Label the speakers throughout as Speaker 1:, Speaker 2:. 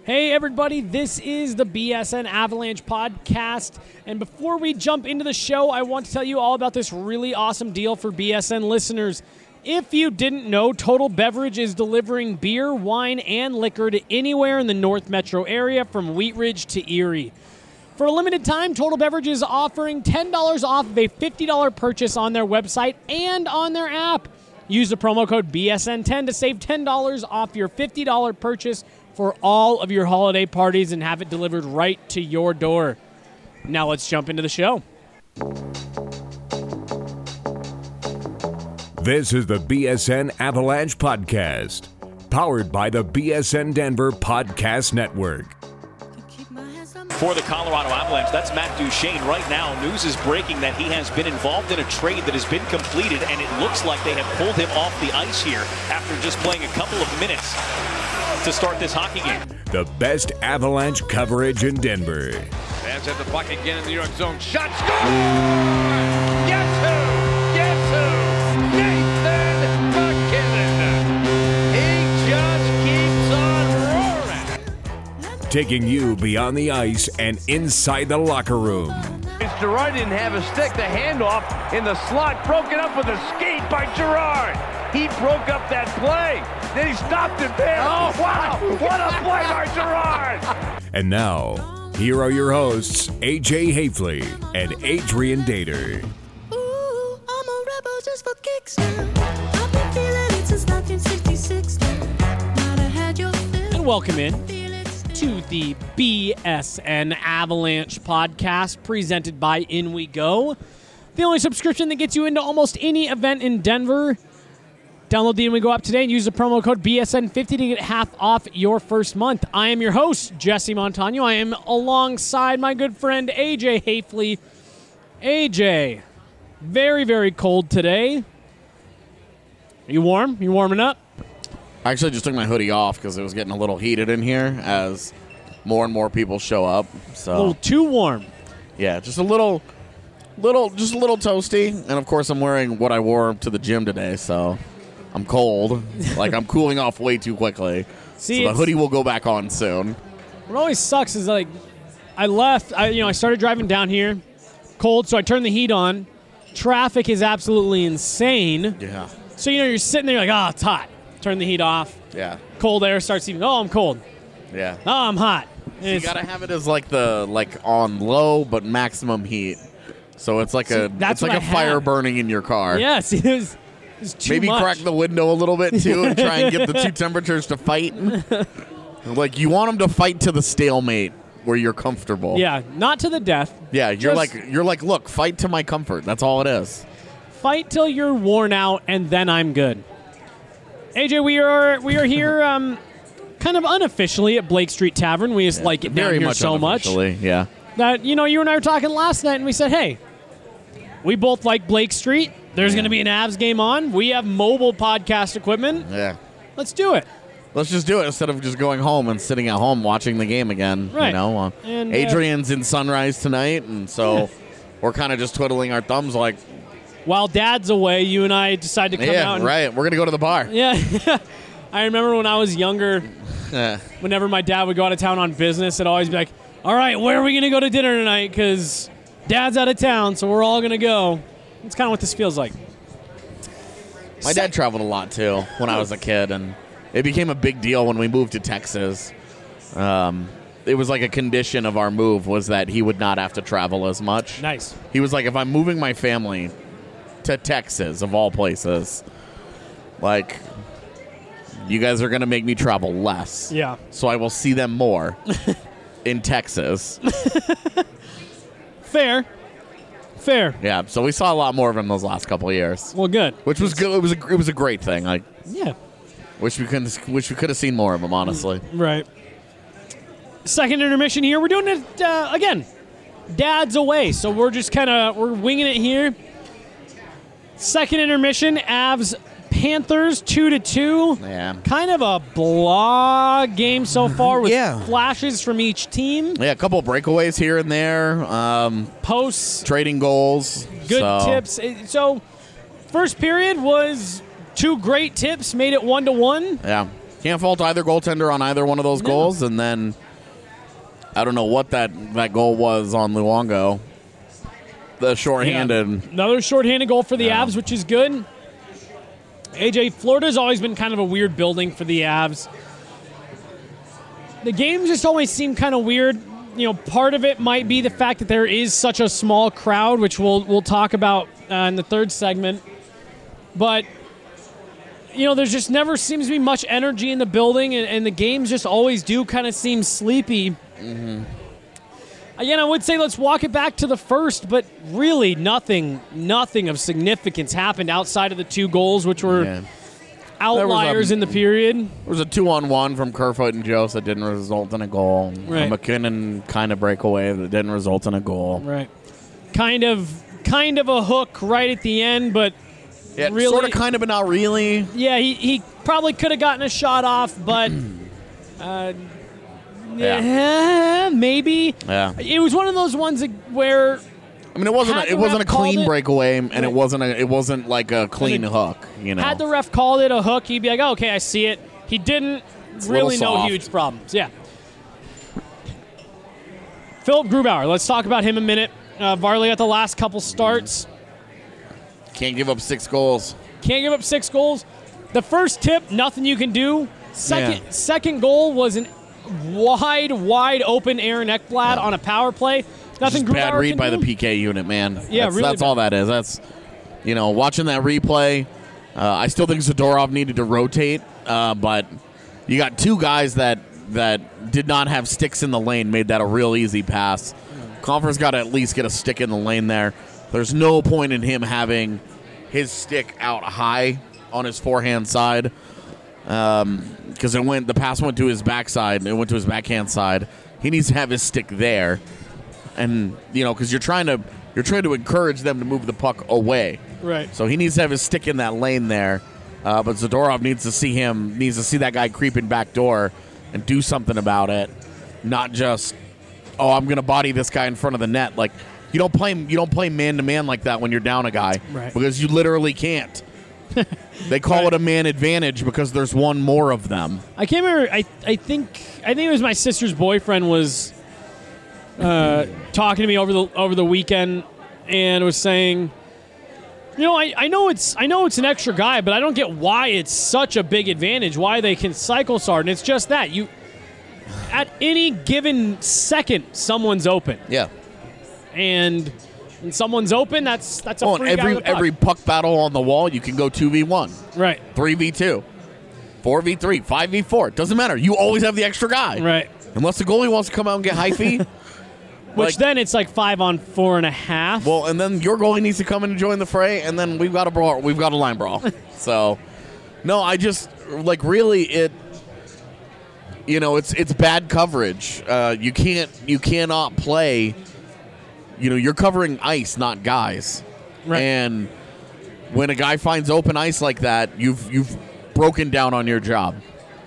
Speaker 1: Hey everybody, this is the BSN Avalanche podcast, and before we jump into the show, I want to tell you all about this really awesome deal for BSN listeners. If you didn't know, Total Beverage is delivering beer, wine, and liquor to anywhere in the North Metro area from Wheat Ridge to Erie. For a limited time, Total Beverage is offering $10 off of a $50 purchase on their website and on their app. Use the promo code BSN10 to save $10 off your $50 purchase for all of your holiday parties and have it delivered right to your door. Now let's jump into the show.
Speaker 2: This is the BSN Avalanche podcast, powered by the BSN Denver Podcast Network.
Speaker 3: For the Colorado Avalanche, that's Matt Duchene. Right now, news is breaking that he has been involved in a trade that has been completed, and it looks like they have pulled him off the ice here after just playing a couple of minutes to start this hockey game.
Speaker 2: The best Avalanche coverage in Denver.
Speaker 4: Fans have the puck again in the New York zone. Shot, score! Guess who? Guess who? Nathan MacKinnon. He just keeps on roaring.
Speaker 2: Taking you beyond the ice and inside the locker room.
Speaker 4: Girard didn't have a stick. The handoff in the slot broken up with a skate by Girard. He broke up that play. Then he stopped it there. Oh, wow. What a play by Girard.
Speaker 2: And now, here are your hosts, AJ Hafley and Adrian Dater.
Speaker 5: Ooh, I'm a rebel just for kicks now. I've been feeling it since 1966 now. Might have had your fill.
Speaker 1: And welcome in to the BSN Avalanche podcast presented by In We Go, the only subscription that gets you into almost any event in Denver. Download the In We Go app today and use the promo code BSN50 to get half off your first month. I am your host, Jesse Montano. I am alongside my good friend, AJ Hafley. AJ, very, very cold today. Are you warm? You warming up?
Speaker 6: I actually just took my hoodie off because it was getting a little heated in here as more and more people show up. So
Speaker 1: A little too warm.
Speaker 6: yeah, just a little toasty. And of course, I'm wearing what I wore to the gym today, so I'm cold. Like I'm cooling off way too quickly.
Speaker 1: See,
Speaker 6: so the hoodie will go back on soon.
Speaker 1: What always sucks is like I started driving down here, cold, so I turned the heat on. Traffic is absolutely insane.
Speaker 6: Yeah,
Speaker 1: So you're sitting there like, it's hot. Turn the heat off.
Speaker 6: yeah,
Speaker 1: Cold air starts even. Oh, I'm cold.
Speaker 6: yeah.
Speaker 1: Oh, I'm hot. And
Speaker 6: You
Speaker 1: it's-
Speaker 6: gotta have it as like on low but maximum heat. So it's like
Speaker 1: that's what I
Speaker 6: fire
Speaker 1: have.
Speaker 6: burning in your car.
Speaker 1: Yes, it was too
Speaker 6: Maybe
Speaker 1: much.
Speaker 6: crack the window a little bit, too, and try and get the two temperatures to fight. Like, you want them to fight to the stalemate where you're comfortable.
Speaker 1: Yeah, not to the death.
Speaker 6: Yeah, you're
Speaker 1: Just
Speaker 6: like, look, fight to my comfort. That's all it is.
Speaker 1: fight till you're worn out, and then I'm good. AJ, we are here kind of unofficially at Blake Street Tavern. We just like it down
Speaker 6: Very
Speaker 1: here
Speaker 6: much
Speaker 1: so much
Speaker 6: unofficially, yeah.
Speaker 1: that, you and I were talking last night, and we said, hey, we both like Blake Street. There's going to be an Avs game on. We have mobile podcast equipment.
Speaker 6: Yeah.
Speaker 1: Let's do it.
Speaker 6: Let's just do it instead of just going home and sitting at home watching the game again.
Speaker 1: Right.
Speaker 6: You know,
Speaker 1: And,
Speaker 6: Adrian's in Sunrise tonight, and so we're kind of just twiddling our thumbs like,
Speaker 1: While Dad's away, you and I decided to come out. And,
Speaker 6: right. We're going to go to the bar.
Speaker 1: Yeah. I remember when I was younger,
Speaker 6: Yeah.
Speaker 1: whenever my dad would go out of town on business, it'd always be like, all right, where are we going to go to dinner tonight? Because Dad's out of town, so we're all going to go. That's kind of what this feels like.
Speaker 6: My dad traveled a lot, too, when I was a kid, and it became a big deal when we moved to Texas. It was like a condition of our move was that he would not have to travel as much.
Speaker 1: Nice.
Speaker 6: He was like, if I'm moving my family to Texas, of all places, like, you guys are going to make me travel less.
Speaker 1: Yeah.
Speaker 6: So I will see them more in Texas.
Speaker 1: Fair.
Speaker 6: Yeah, so we saw a lot more of him those last couple of years,
Speaker 1: Well, good.
Speaker 6: which was good. It was a great thing. Like,
Speaker 1: Yeah.
Speaker 6: wish we could have seen more of him, honestly.
Speaker 1: Right. Second intermission here. We're doing it again. Dad's away, so we're just we're winging it here. Second intermission, Avs Panthers 2-2.
Speaker 6: Yeah.
Speaker 1: Kind of a blah game so far with
Speaker 6: Yeah.
Speaker 1: flashes from each team.
Speaker 6: Yeah, a couple of breakaways here and there.
Speaker 1: Posts,
Speaker 6: Trading goals.
Speaker 1: good
Speaker 6: so.
Speaker 1: tips. So first period was two great tips, made it 1-1.
Speaker 6: Yeah. Can't fault either goaltender on either one of those goals. And then I don't know what that goal was on Luongo. The shorthanded.
Speaker 1: Yeah. Another shorthanded goal for the Avs, which is good. AJ, Florida's always been kind of a weird building for the Avs. The games just always seem kind of weird. You know, part of it might be the fact that there is such a small crowd, which we'll talk about in the third segment. But, you know, there's just never seems to be much energy in the building, and the games just always do kind of seem sleepy. Mm-hmm. Again, I would say let's walk it back to the first, but really nothing of significance happened outside of the 2 goals, which were outliers in the period.
Speaker 6: There was a 2-on-1 from Kerfoot and Jost that didn't result in a goal.
Speaker 1: Right.
Speaker 6: A McKinnon kind of breakaway that didn't result in a goal.
Speaker 1: Right. Kind of a hook right at the end, but really,
Speaker 6: sort of, kind of, but not really.
Speaker 1: Yeah, he probably could have gotten a shot off, but maybe.
Speaker 6: Yeah.
Speaker 1: It was one of those ones where.
Speaker 6: I mean, it wasn't a clean breakaway, and it wasn't like a clean hook. You know,
Speaker 1: had the ref called it a hook, he'd be like, oh, "Okay, I see it." He didn't. Really, no huge problems. Yeah. Philip Grubauer. Let's talk about him a minute. Varley at the last couple starts.
Speaker 6: Can't give up 6 goals.
Speaker 1: Can't give up 6 goals. The first tip, nothing you can do. Second goal was an wide open Aaron Ekblad on a power play. Nothing.
Speaker 6: Just bad read by the PK unit, man.
Speaker 1: Yeah,
Speaker 6: that's all that is. That's, watching that replay. I still think Zadorov needed to rotate, but you got 2 guys that did not have sticks in the lane, made that a real easy pass. Compher's got to at least get a stick in the lane there. There's no point in him having his stick out high on his forehand side, because the pass went to his backside. It went to his backhand side. He needs to have his stick there, and because you're trying to encourage them to move the puck away.
Speaker 1: Right.
Speaker 6: So he needs to have his stick in that lane there. But Zadorov needs to see that guy creeping back door and do something about it, not just, I'm going to body this guy in front of the net. Like, you don't play man to man like that when you're down a guy,
Speaker 1: right?
Speaker 6: Because you literally can't. They call it a man advantage because there's one more of them.
Speaker 1: I can't remember. I think it was my sister's boyfriend was talking to me over the weekend and was saying, I know it's an extra guy, but I don't get why it's such a big advantage. Why they can cycle start, and it's just that at any given second, someone's open.
Speaker 6: Yeah.
Speaker 1: And when someone's open, that's a free
Speaker 6: and
Speaker 1: guy with the puck.
Speaker 6: every puck battle on the wall, you can go 2v1.
Speaker 1: Right.
Speaker 6: 3v2. 4v3. 5v4. It doesn't matter. You always have the extra guy.
Speaker 1: Right.
Speaker 6: Unless the goalie wants to come out and get hyphy.
Speaker 1: Which then it's like 5 on 4.5.
Speaker 6: Well, and then your goalie needs to come in and join the fray, and then we've got a brawl. We've got a line brawl. So, no, I just really it's bad coverage. You cannot play. You're covering ice, not guys.
Speaker 1: Right.
Speaker 6: And when a guy finds open ice like that, you've broken down on your job.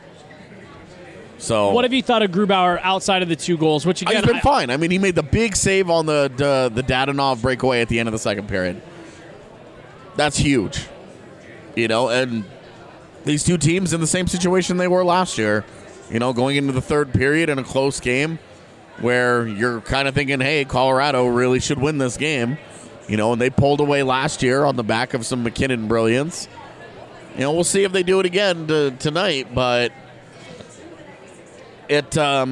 Speaker 6: So,
Speaker 1: what have you thought of Grubauer outside of the 2 goals? Which again,
Speaker 6: he's been fine. I mean, he made the big save on the Dadonov breakaway at the end of the second period. That's huge. And these 2 teams in the same situation they were last year. Going into the third period in a close game where you're kind of thinking, hey, Colorado really should win this game. And they pulled away last year on the back of some McKinnon brilliance. We'll see if they do it again tonight, but they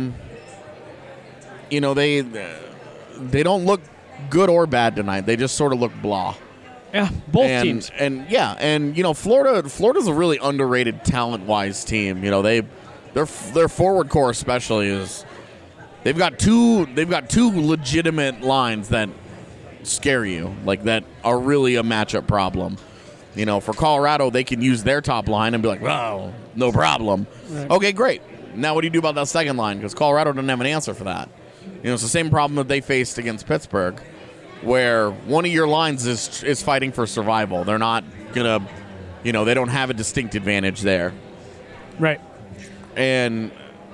Speaker 6: don't look good or bad tonight. They just sort of look blah.
Speaker 1: Yeah, both teams.
Speaker 6: And Florida's a really underrated talent-wise team. Their forward core especially is they've got two legitimate lines that scare you, like that are really a matchup problem. For Colorado, they can use their top line and be like, "Wow, no problem." Right. Okay, great. Now what do you do about that second line? Because Colorado doesn't have an answer for that. It's the same problem that they faced against Pittsburgh, where one of your lines is fighting for survival. They're not gonna, they don't have a distinct advantage there.
Speaker 1: Right.
Speaker 6: And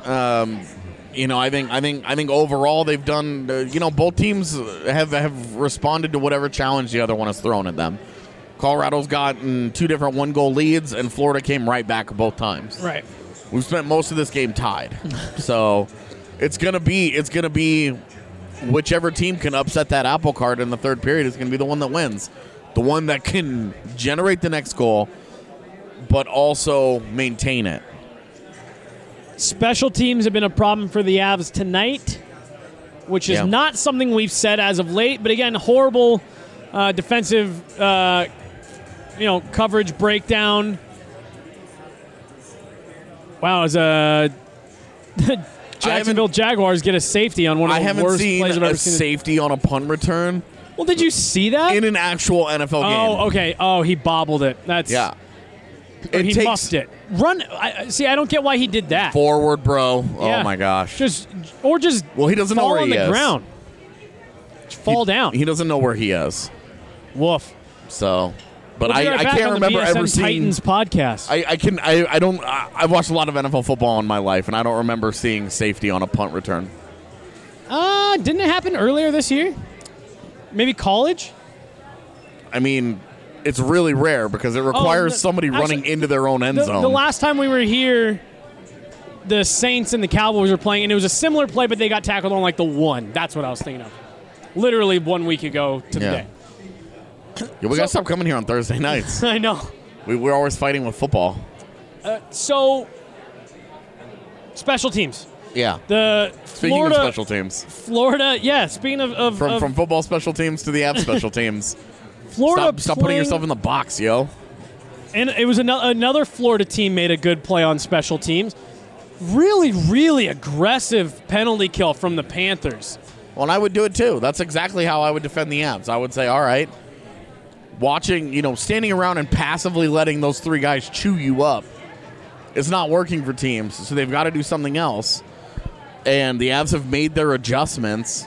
Speaker 6: I think overall they've done. Both teams have responded to whatever challenge the other one has thrown at them. Colorado's gotten 2 different 1-goal leads, and Florida came right back both times.
Speaker 1: Right.
Speaker 6: We've spent most of this game tied. So it's gonna be whichever team can upset that apple cart in the third period is gonna be the one that wins. The one that can generate the next goal, but also maintain it.
Speaker 1: Special teams have been a problem for the Avs tonight, which is not something we've said as of late. But again, horrible defensive, coverage breakdown. Wow, as Jacksonville Jaguars get a safety on one of the worst plays I've ever seen.
Speaker 6: Safety on a punt return.
Speaker 1: Well, did you see that?
Speaker 6: In an actual NFL game.
Speaker 1: Oh, okay. Oh, he bobbled it. He muffed it. I don't get why he did that.
Speaker 6: Forward, bro. Yeah. Oh, my gosh.
Speaker 1: Well,
Speaker 6: he doesn't know where he is.
Speaker 1: Fall on the ground. Just fall down.
Speaker 6: He doesn't know where he is.
Speaker 1: Woof.
Speaker 6: So... But I can't remember ever seeing
Speaker 1: Titans podcast.
Speaker 6: I've watched a lot of NFL football in my life, and I don't remember seeing safety on a punt return.
Speaker 1: Didn't it happen earlier this year? Maybe college?
Speaker 6: I mean, it's really rare because it requires somebody running into their own end zone.
Speaker 1: The last time we were here, the Saints and the Cowboys were playing, and it was a similar play, but they got tackled on like the 1. That's what I was thinking of. Literally 1 week ago to the day.
Speaker 6: Yeah, we got to stop coming here on Thursday nights.
Speaker 1: I know.
Speaker 6: We're always fighting with football.
Speaker 1: Special teams.
Speaker 6: Yeah.
Speaker 1: Speaking
Speaker 6: of special teams.
Speaker 1: Florida, speaking of
Speaker 6: from football special teams to the Avs special teams.
Speaker 1: Florida
Speaker 6: Stop putting yourself in the box, yo.
Speaker 1: And it was another Florida team made a good play on special teams. Really, really aggressive penalty kill from the Panthers.
Speaker 6: Well, and I would do it too. That's exactly how I would defend the Avs. I would say, all right, standing around and passively letting those 3 guys chew you up is not working for teams, so they've got to do something else. And the Avs have made their adjustments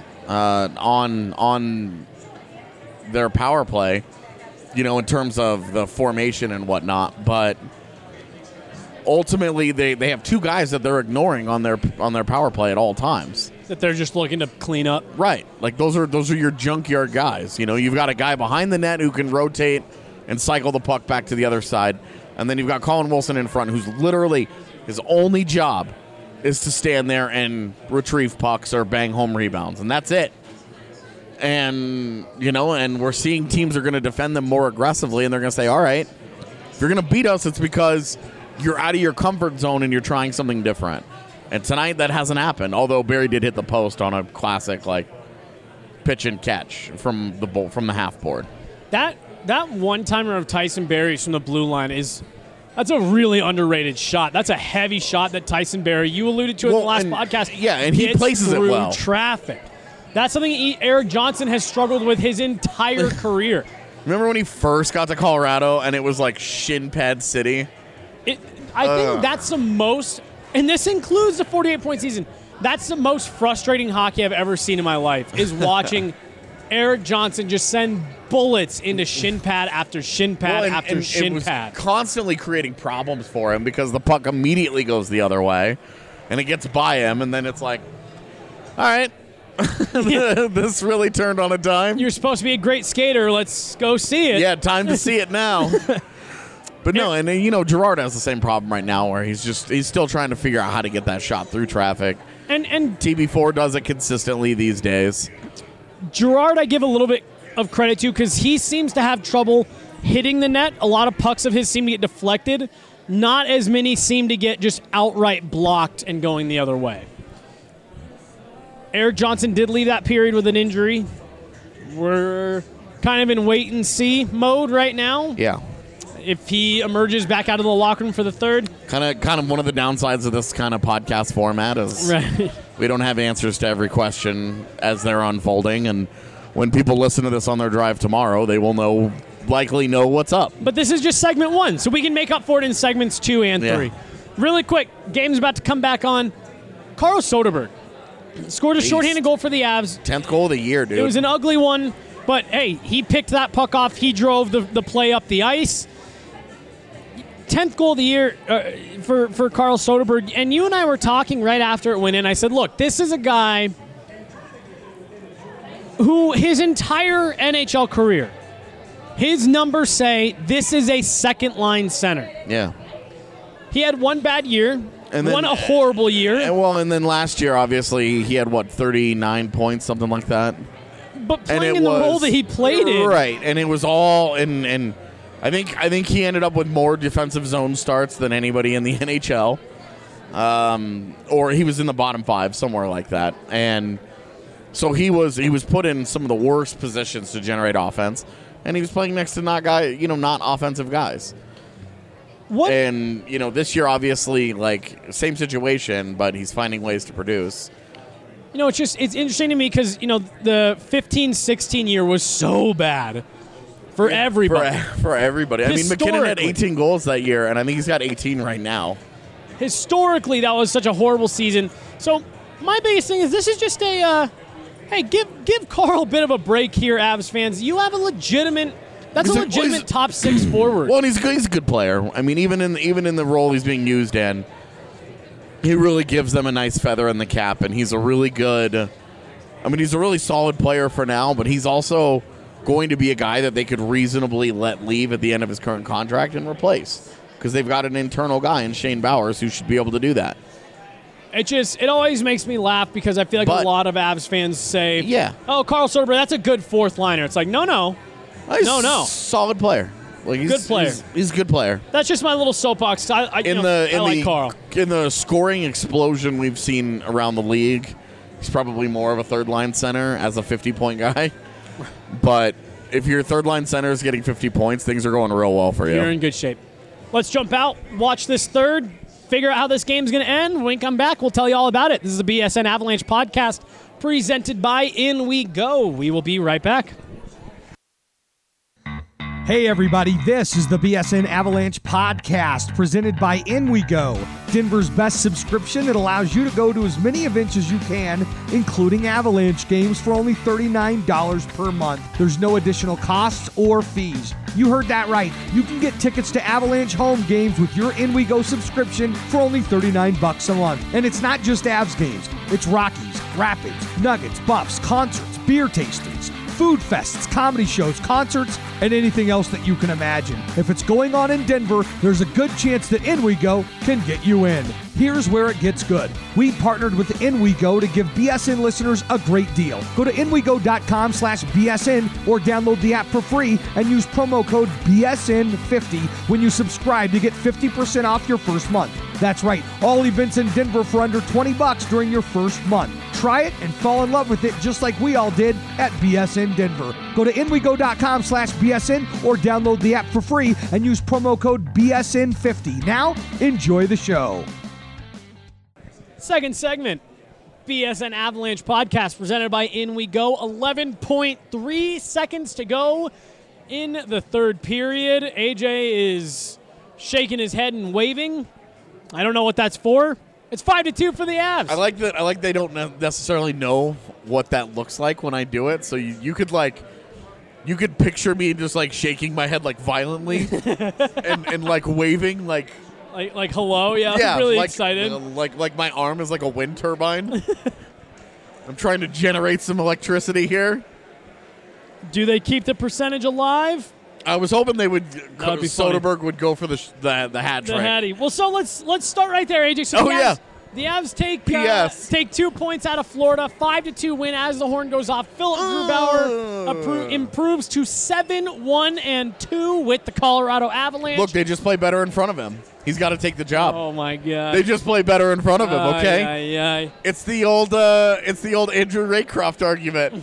Speaker 6: on their power play, in terms of the formation and whatnot. But ultimately, they have 2 guys that they're ignoring on their power play at all times.
Speaker 1: That they're just looking to clean up.
Speaker 6: Right. Like, those are your junkyard guys. You've got a guy behind the net who can rotate and cycle the puck back to the other side. And then you've got Colin Wilson in front, who's literally, his only job is to stand there and retrieve pucks or bang home rebounds. And that's it. And, and we're seeing teams are going to defend them more aggressively, and they're going to say, all right, if you're going to beat us, it's because you're out of your comfort zone and you're trying something different. And tonight, that hasn't happened, although Barry did hit the post on a classic, pitch and catch from the half board.
Speaker 1: That one-timer of Tyson Barrie's from the blue line that's a really underrated shot. That's a heavy shot that Tyson Barrie, you alluded to in the last podcast.
Speaker 6: Yeah, and he places it well.
Speaker 1: Traffic. That's something Erik Johnson has struggled with his entire career.
Speaker 6: Remember when he first got to Colorado and it was like shin pad city?
Speaker 1: I think that's the most... And this includes the 48-point season. That's the most frustrating hockey I've ever seen in my life, is watching Erik Johnson just send bullets into shin pad after shin pad after shin pad.
Speaker 6: It was constantly creating problems for him because the puck immediately goes the other way, and it gets by him, and then it's like, all right, this really turned on a dime.
Speaker 1: You're supposed to be a great skater. Let's go see it.
Speaker 6: Yeah, time to see it now. But no, and Girard has the same problem right now where he's still trying to figure out how to get that shot through traffic.
Speaker 1: And
Speaker 6: TB4 does it consistently these days.
Speaker 1: Girard, I give a little bit of credit to because he seems to have trouble hitting the net. A lot of pucks of his seem to get deflected. Not as many seem to get just outright blocked and going the other way. Erik Johnson did leave that period with an injury. We're kind of in wait-and-see mode right now.
Speaker 6: Yeah.
Speaker 1: If he emerges back out of the locker room for the third.
Speaker 6: Kind of one of the downsides of this kind of podcast format is we don't have answers to every question as they're unfolding. And when people listen to this on their drive tomorrow, they will likely know what's up.
Speaker 1: But this is just segment 1, so we can make up for it in segments 2 and 3. Really quick, game's about to come back on. Carl Soderberg scored a shorthanded goal for the Avs.
Speaker 6: 10th goal of the year, dude.
Speaker 1: It was an ugly one, but hey, he picked that puck off. He drove the play up the ice. 10th goal of the year for Carl Soderberg. And you and I were talking right after it went in. I said, look, this is a guy who his entire NHL career, his numbers say this is a second-line center.
Speaker 6: Yeah.
Speaker 1: He had one bad year.
Speaker 6: And then,
Speaker 1: Won a horrible year.
Speaker 6: And then last year, obviously, he had, 39 points, something like that?
Speaker 1: But playing in the role that he played in.
Speaker 6: Right, and it was all and I think he ended up with more defensive zone starts than anybody in the NHL. Or he was in the bottom 5, somewhere like that. And so he was put in some of the worst positions to generate offense, and he was playing next to not offensive guys.
Speaker 1: What?
Speaker 6: And, this year, obviously, same situation, but he's finding ways to produce.
Speaker 1: It's interesting to me because, the 15-16 year was so bad for everybody.
Speaker 6: For everybody. I mean, McKinnon had 18 goals that year, and I think he's got 18 right now.
Speaker 1: Historically, that was such a horrible season. So my biggest thing is this is just a, hey, give Carl a bit of a break here, Avs fans. You have a legitimate top 6 forward.
Speaker 6: Well, and he's a good player. I mean, even in the role he's being used in, he really gives them a nice feather in the cap, and he's a really solid player for now, but he's also going to be a guy that they could reasonably let leave at the end of his current contract and replace, because they've got an internal guy in Shane Bowers who should be able to do that.
Speaker 1: It always makes me laugh because I feel like a lot of Avs fans say,
Speaker 6: yeah,
Speaker 1: oh, Carl Soderberg, that's a good fourth liner. It's like, no.
Speaker 6: Solid player. He's
Speaker 1: good player.
Speaker 6: He's a good player.
Speaker 1: That's just my little soapbox. I like Carl.
Speaker 6: In the scoring explosion we've seen around the league, he's probably more of a third-line center as a 50-point guy. But if your third-line center is getting 50 points, things are going real well for you.
Speaker 1: You're in good shape. Let's jump out, watch this third, figure out how this game's going to end. When we come back, we'll tell you all about it. This is the BSN Avalanche podcast presented by In We Go. We will be right back.
Speaker 7: Hey everybody, this is the BSN Avalanche podcast presented by In We Go, Denver's best subscription that allows you to go to as many events as you can, including Avalanche games for only $39 per month. There's no additional costs or fees. You heard that right. You can get tickets to Avalanche home games with your In We Go subscription for only $39 a month. And it's not just Avs games. It's Rockies, Rapids, Nuggets, Buffs, concerts, beer tastings, food fests, comedy shows, concerts, and anything else that you can imagine. If it's going on in Denver, there's a good chance that In We Go can get you in. Here's where it gets good. We partnered with In We Go to give BSN listeners a great deal. Go to inwego.com/BSN or download the app for free and use promo code BSN50 when you subscribe to get 50% off your first month. That's right, all events in Denver for under $20 during your first month. Try it and fall in love with it just like we all did at BSN Denver. Go to inwego.com/BSN or download the app for free and use promo code BSN50. Now, enjoy the show.
Speaker 1: Second segment, BSN Avalanche podcast presented by In We Go. 11.3 seconds to go in the third period. AJ is shaking his head and waving. I don't know what that's for. It's 5-2 for the Avs.
Speaker 6: I like that. I like they don't necessarily know what that looks like when I do it. So you could picture me just shaking my head violently and waving like
Speaker 1: hello, yeah, I'm really excited.
Speaker 6: Like my arm is like a wind turbine. I'm trying to generate some electricity here.
Speaker 1: Do they keep the percentage alive?
Speaker 6: I was hoping they would.
Speaker 1: Soderberg
Speaker 6: funny. Would go for the hat trick.
Speaker 1: The hattie. Well, so let's start right there, AJ. So the Avs take 2 points out of Florida, 5-2 win as the horn goes off. Philip Grubauer improves to 7-1-2 with the Colorado Avalanche.
Speaker 6: Look, they just play better in front of him. He's got to take the job.
Speaker 1: Oh my God!
Speaker 6: They just play better in front of him. Okay. It's the old Andrew Raycroft argument.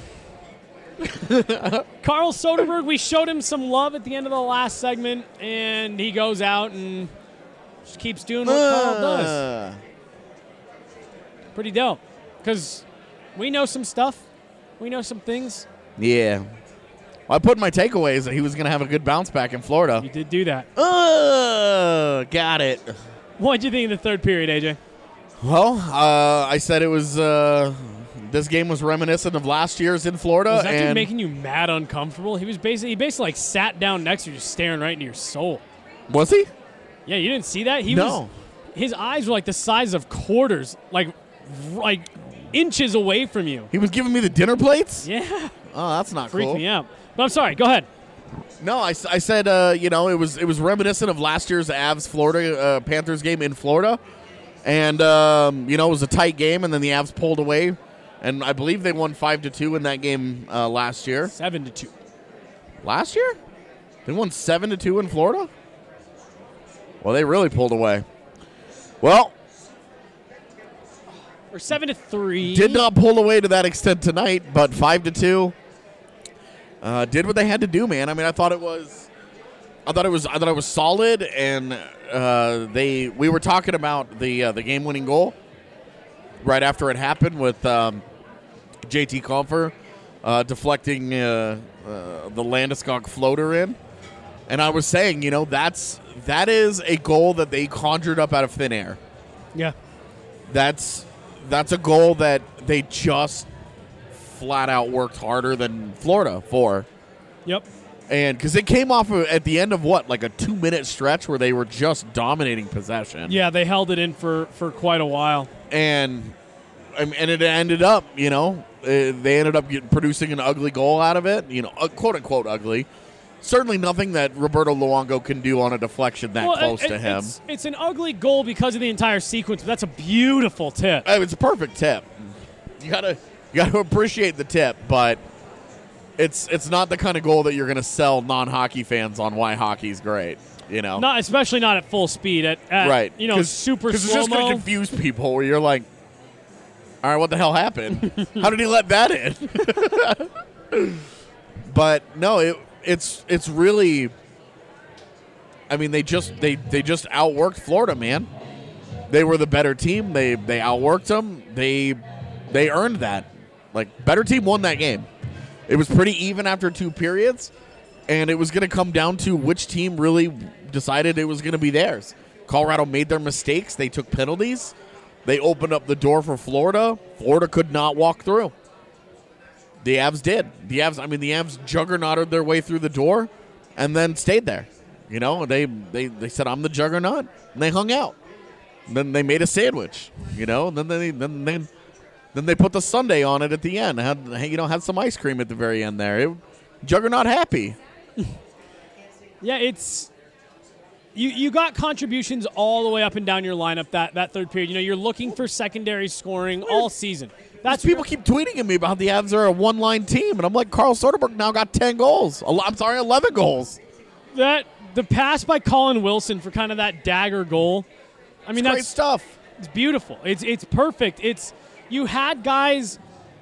Speaker 1: Carl Soderberg, we showed him some love at the end of the last segment, and he goes out and just keeps doing what Carl does. Pretty dope, because we know some stuff. We know some things.
Speaker 6: Yeah. Well, I put in my takeaways that he was going to have a good bounce back in Florida.
Speaker 1: You did do that.
Speaker 6: Got it.
Speaker 1: What did you think of the third period, AJ?
Speaker 6: Well, I said it was... this game was reminiscent of last year's in Florida.
Speaker 1: Was that dude making you mad uncomfortable? He basically sat down next to you, just staring right into your soul.
Speaker 6: Was he?
Speaker 1: Yeah, you didn't see that? His eyes were like the size of quarters, like inches away from you.
Speaker 6: He was giving me the dinner plates?
Speaker 1: Yeah.
Speaker 6: Oh, that's not
Speaker 1: Freaked
Speaker 6: cool.
Speaker 1: me out. But I'm sorry. Go ahead.
Speaker 6: No, I said, it was reminiscent of last year's Avs Florida Panthers game in Florida. And, it was a tight game, and then the Avs pulled away. And I believe they won 5-2 in that game last year.
Speaker 1: 7-2.
Speaker 6: Last year? They won 7-2 in Florida? Well, they really pulled away. Well,
Speaker 1: or 7-3.
Speaker 6: Did not pull away to that extent tonight, but 5-2. Did what they had to do, man. I mean, I thought it was solid, and we were talking about the game-winning goal right after it happened with JT Compher deflecting the Landeskog floater in, and I was saying, that is a goal that they conjured up out of thin air.
Speaker 1: Yeah,
Speaker 6: that's a goal that they just flat out worked harder than Florida for.
Speaker 1: Yep.
Speaker 6: And because it came off at the end of like a 2-minute stretch where they were just dominating possession.
Speaker 1: Yeah, they held it in for quite a while.
Speaker 6: And it ended up, they ended up producing an ugly goal out of it, quote unquote ugly. Certainly nothing that Roberto Luongo can do on a deflection close to him.
Speaker 1: It's an ugly goal because of the entire sequence, but that's a beautiful tip.
Speaker 6: It's a perfect tip. You gotta appreciate the tip, but it's not the kind of goal that you're going to sell non-hockey fans on why hockey's great.
Speaker 1: Not especially not at full speed. At
Speaker 6: right.
Speaker 1: Super slow-mo.
Speaker 6: Because it's just going to confuse people where you're like, all right, what the hell happened? How did he let that in? But no, it's really. I mean, they just outworked Florida, man. They were the better team. They outworked them. They earned that. Like, better team won that game. It was pretty even after 2 periods, and it was going to come down to which team really decided it was going to be theirs. Colorado made their mistakes. They took penalties. They opened up the door for Florida. Florida could not walk through. The Avs did. The Avs juggernauted their way through the door and then stayed there. They said, I'm the juggernaut, and they hung out. And then they made a sandwich, and then they put the sundae on it at the end. Had some ice cream at the very end there. Juggernaut happy.
Speaker 1: Yeah, it's you got contributions all the way up and down your lineup that third period. You're looking for secondary scoring all season. That's
Speaker 6: people keep tweeting at me about the Avs are a one-line team, and I'm like, Carl Soderberg now got 10 goals. 11 goals.
Speaker 1: The pass by Colin Wilson for kind of that dagger goal. I mean,
Speaker 6: that's
Speaker 1: great
Speaker 6: stuff.
Speaker 1: It's beautiful. It's perfect. You had guys.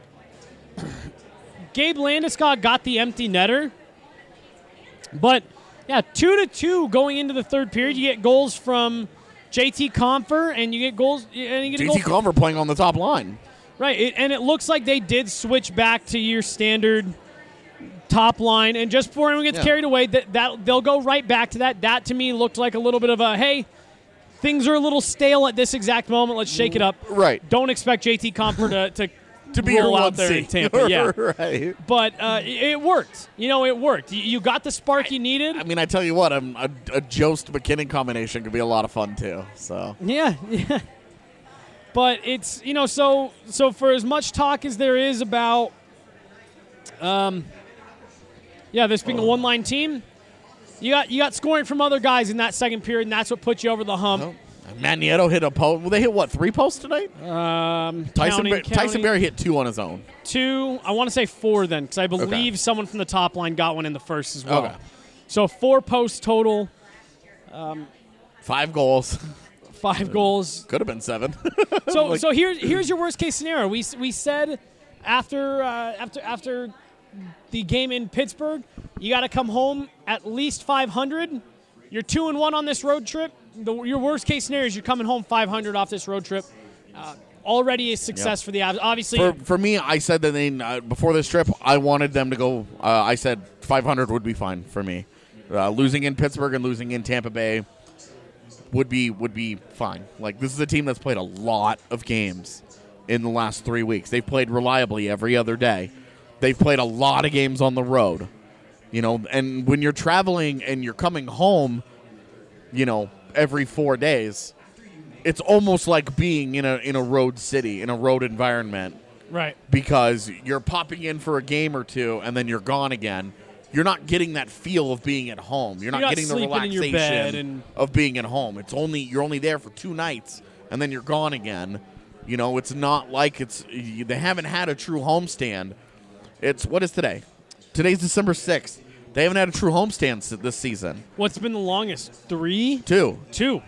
Speaker 1: Gabe Landeskog got the empty netter, but yeah, 2-2 going into the third period. You get goals from JT Compher, and you get goals. And you get
Speaker 6: JT Compher playing on the top line,
Speaker 1: right? And it looks like they did switch back to your standard top line. And just before anyone gets carried away, that they'll go right back to that. That to me looked like a little bit of a hey. Things are a little stale at this exact moment. Let's shake it up.
Speaker 6: Right.
Speaker 1: Don't expect JT Compher to
Speaker 6: be
Speaker 1: roll
Speaker 6: your
Speaker 1: out there in Tampa. Yeah.
Speaker 6: Right.
Speaker 1: But it worked. It worked. You got the spark you needed.
Speaker 6: I mean, I tell you what, a Jost McKinnon combination could be a lot of fun too. So
Speaker 1: yeah. But it's so for as much talk as there is about, this being a one-line team. You got scoring from other guys in that second period, and that's what put you over the hump.
Speaker 6: Oh. Matt Nieto hit a post. Well, they hit, 3 posts tonight?
Speaker 1: Tyson
Speaker 6: Barrie hit 2 on his own.
Speaker 1: 2, I want to say 4 then, because I believe someone from the top line got one in the first as well.
Speaker 6: Okay.
Speaker 1: So 4 posts total.
Speaker 6: 5 goals.
Speaker 1: 5 goals.
Speaker 6: Could have been 7.
Speaker 1: So here's your worst case scenario. We said after the game in Pittsburgh, you got to come home at least 500. You're 2-1 on this road trip. Your worst case scenario is you're coming home 500 off this road trip. Already a success for the Avs. Obviously,
Speaker 6: for me, I said that before this trip, I wanted them to go. I said 500 would be fine for me. Losing in Pittsburgh and losing in Tampa Bay would be fine. Like, this is a team that's played a lot of games in the last 3 weeks. They've played reliably every other day. They've played a lot of games on the road. And when you're traveling and you're coming home, every 4 days, it's almost like being in a road city, in a road environment.
Speaker 1: Right.
Speaker 6: Because you're popping in for a game or two and then you're gone again. You're not getting that feel of being at home. You're not getting the relaxation of being at home. You're only there for 2 nights and then you're gone again. You know, it's not like they haven't had a true homestand. What is today? Today's December 6th. They haven't had a true homestand this season.
Speaker 1: What's been the longest? 3?
Speaker 6: 2.
Speaker 1: 2.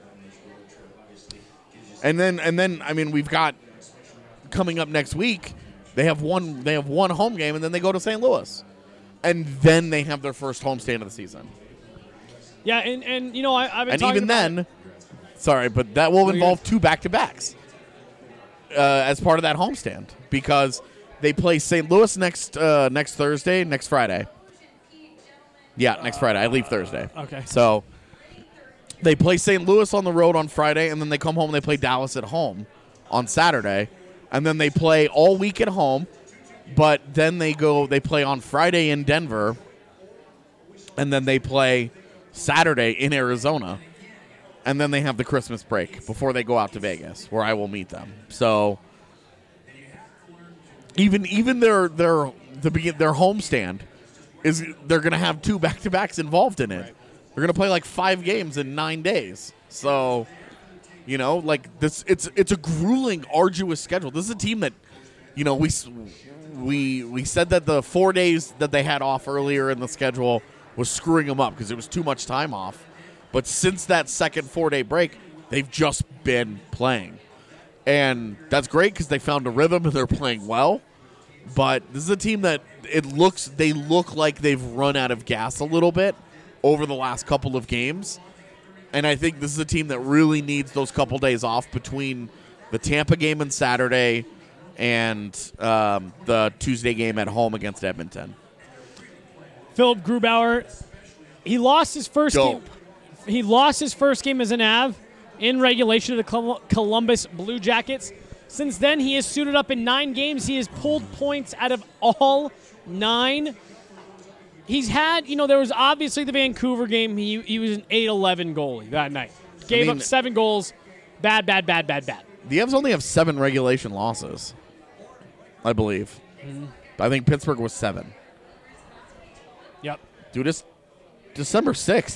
Speaker 6: And then I mean, we've got coming up next week. They have one home game, and then they go to St. Louis, and then they have their first homestand of the season.
Speaker 1: Yeah, and you know, I've been
Speaker 6: and
Speaker 1: talking
Speaker 6: even
Speaker 1: about
Speaker 6: then, sorry, but that will involve 2 back-to-backs as part of that homestand, because they play St. Louis next Thursday, next Friday. Yeah, next Friday. I leave Thursday.
Speaker 1: Okay.
Speaker 6: So they play St. Louis on the road on Friday, and then they come home and they play Dallas at home on Saturday, and then they play all week at home, but then they play on Friday in Denver, and then they play Saturday in Arizona, and then they have the Christmas break before they go out to Vegas, where I will meet them. So even their homestand they're going to have 2 back-to-backs involved in it. Right. They're going to play like 5 games in 9 days. So, you know, like this, it's a grueling, arduous schedule. This is a team that, you know, we said that the 4 days that they had off earlier in the schedule was screwing them up because it was too much time off. But since that second 4-day break, they've just been playing. And that's great because they found a rhythm and they're playing well. But this is a team that they look like they've run out of gas a little bit over the last couple of games. And I think this is a team that really needs those couple days off between the Tampa game on Saturday and the Tuesday game at home against Edmonton.
Speaker 1: Philip Grubauer, he lost his first
Speaker 6: Dope.
Speaker 1: game. He lost his first game as an Av in regulation to the Columbus Blue Jackets. Since then, he has suited up in 9 games. He has pulled points out of all 9. He's had, you know, there was obviously the Vancouver game. He was an 8-11 goalie that night. Gave up 7 goals. Bad.
Speaker 6: The Avs only have 7 regulation losses, I believe.
Speaker 1: Mm-hmm.
Speaker 6: I think Pittsburgh was 7.
Speaker 1: Yep.
Speaker 6: Dude, it's December 6th.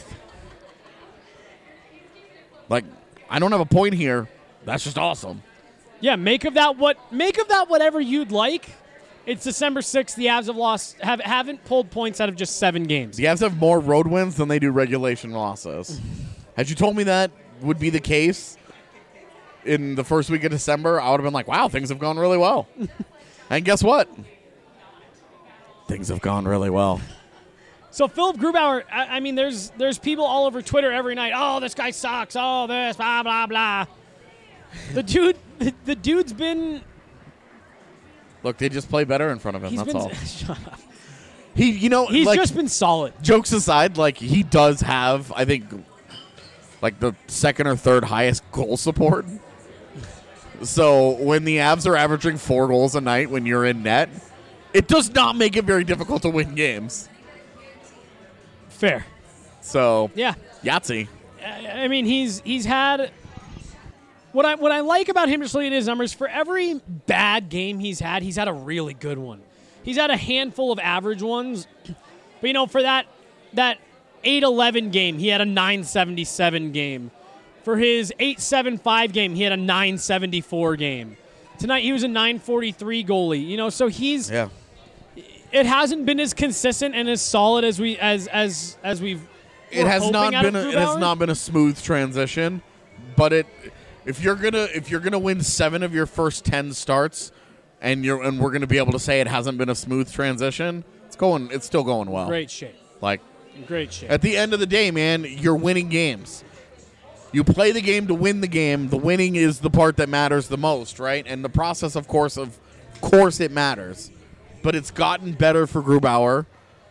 Speaker 6: Like, I don't have a point here. That's just awesome.
Speaker 1: Yeah, make of that whatever you'd like. It's December 6th. The Avs haven't pulled points out of just 7 games.
Speaker 6: The Avs have more road wins than they do regulation losses. Had you told me that would be the case in the first week of December, I would have been like, wow, things have gone really well. And guess what? Things have gone really well.
Speaker 1: So Philip Grubauer, I mean, there's people all over Twitter every night. Oh, this guy sucks. Oh, this, blah, blah, blah. The dude's been...
Speaker 6: Look, they just play better in front of him, that's all.
Speaker 1: Shut up.
Speaker 6: He's
Speaker 1: just been solid.
Speaker 6: Jokes aside, like, he does have, I think, like the second or third highest goal support. So when the Avs are averaging 4 goals a night when you're in net, it does not make it very difficult to win games.
Speaker 1: Fair.
Speaker 6: So,
Speaker 1: yeah.
Speaker 6: Yahtzee.
Speaker 1: I mean, he's had... What I like about him, just looking at his numbers, for every bad game he's had a really good one. He's had a handful of average ones. But, you know, for that 8-11 game, he had a 977 game. For his 8-7-5 game, he had a 974 game. Tonight, he was a 943 goalie. You know, so he's...
Speaker 6: Yeah.
Speaker 1: It hasn't been as consistent and as solid as we've...
Speaker 6: It has not been a smooth transition, but if you're gonna win 7 of your first 10 starts, and we're gonna be able to say it hasn't been a smooth transition, it's still going well.
Speaker 1: Great shape.
Speaker 6: Like,
Speaker 1: great shape.
Speaker 6: At the end of the day, man, you're winning games. You play the game to win the game. The winning is the part that matters the most, right? And the process, of course, it matters. But it's gotten better for Grubauer.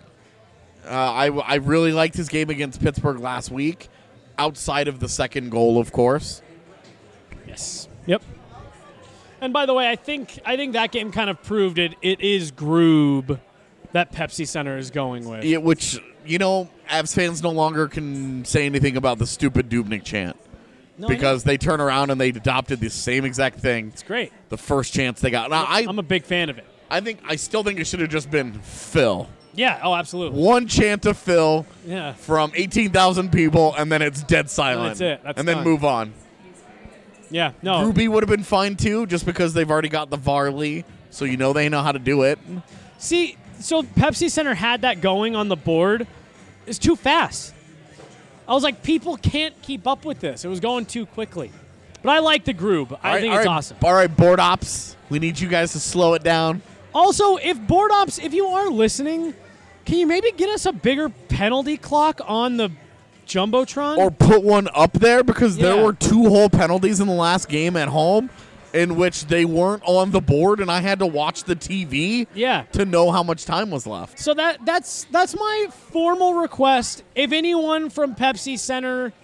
Speaker 6: I really liked his game against Pittsburgh last week, outside of the second goal, of course.
Speaker 1: Yes. Yep. And by the way, I think that game kind of proved it. It is Groob that Pepsi Center is going with.
Speaker 6: Yeah, which, you know, Avs fans no longer can say anything about the stupid Dubnyk chant.
Speaker 1: No,
Speaker 6: because they turn around and they adopted the same exact thing.
Speaker 1: It's great.
Speaker 6: The first chance they got. Now,
Speaker 1: I'm a big fan of it.
Speaker 6: I still think it should have just been Phil.
Speaker 1: Yeah, oh, absolutely.
Speaker 6: One chant of Phil from 18,000 people, and then it's dead silent.
Speaker 1: That's it. That's
Speaker 6: and then
Speaker 1: done.
Speaker 6: move on.
Speaker 1: Yeah, no.
Speaker 6: Ruby would have been fine too, just because they've already got the Varley, so they know how to do it.
Speaker 1: See, so Pepsi Center had that going on the board. It's too fast. I was like, people can't keep up with this. It was going too quickly. But I like the groove. I think it's awesome.
Speaker 6: All right, board ops, we need you guys to slow it down.
Speaker 1: Also, if board ops, if you are listening, can you maybe get us a bigger penalty clock on the Jumbotron?
Speaker 6: Or put one up there, because there were 2 whole penalties in the last game at home in which they weren't on the board, and I had to watch the TV to know how much time was left.
Speaker 1: So that's my formal request. If anyone from Pepsi Center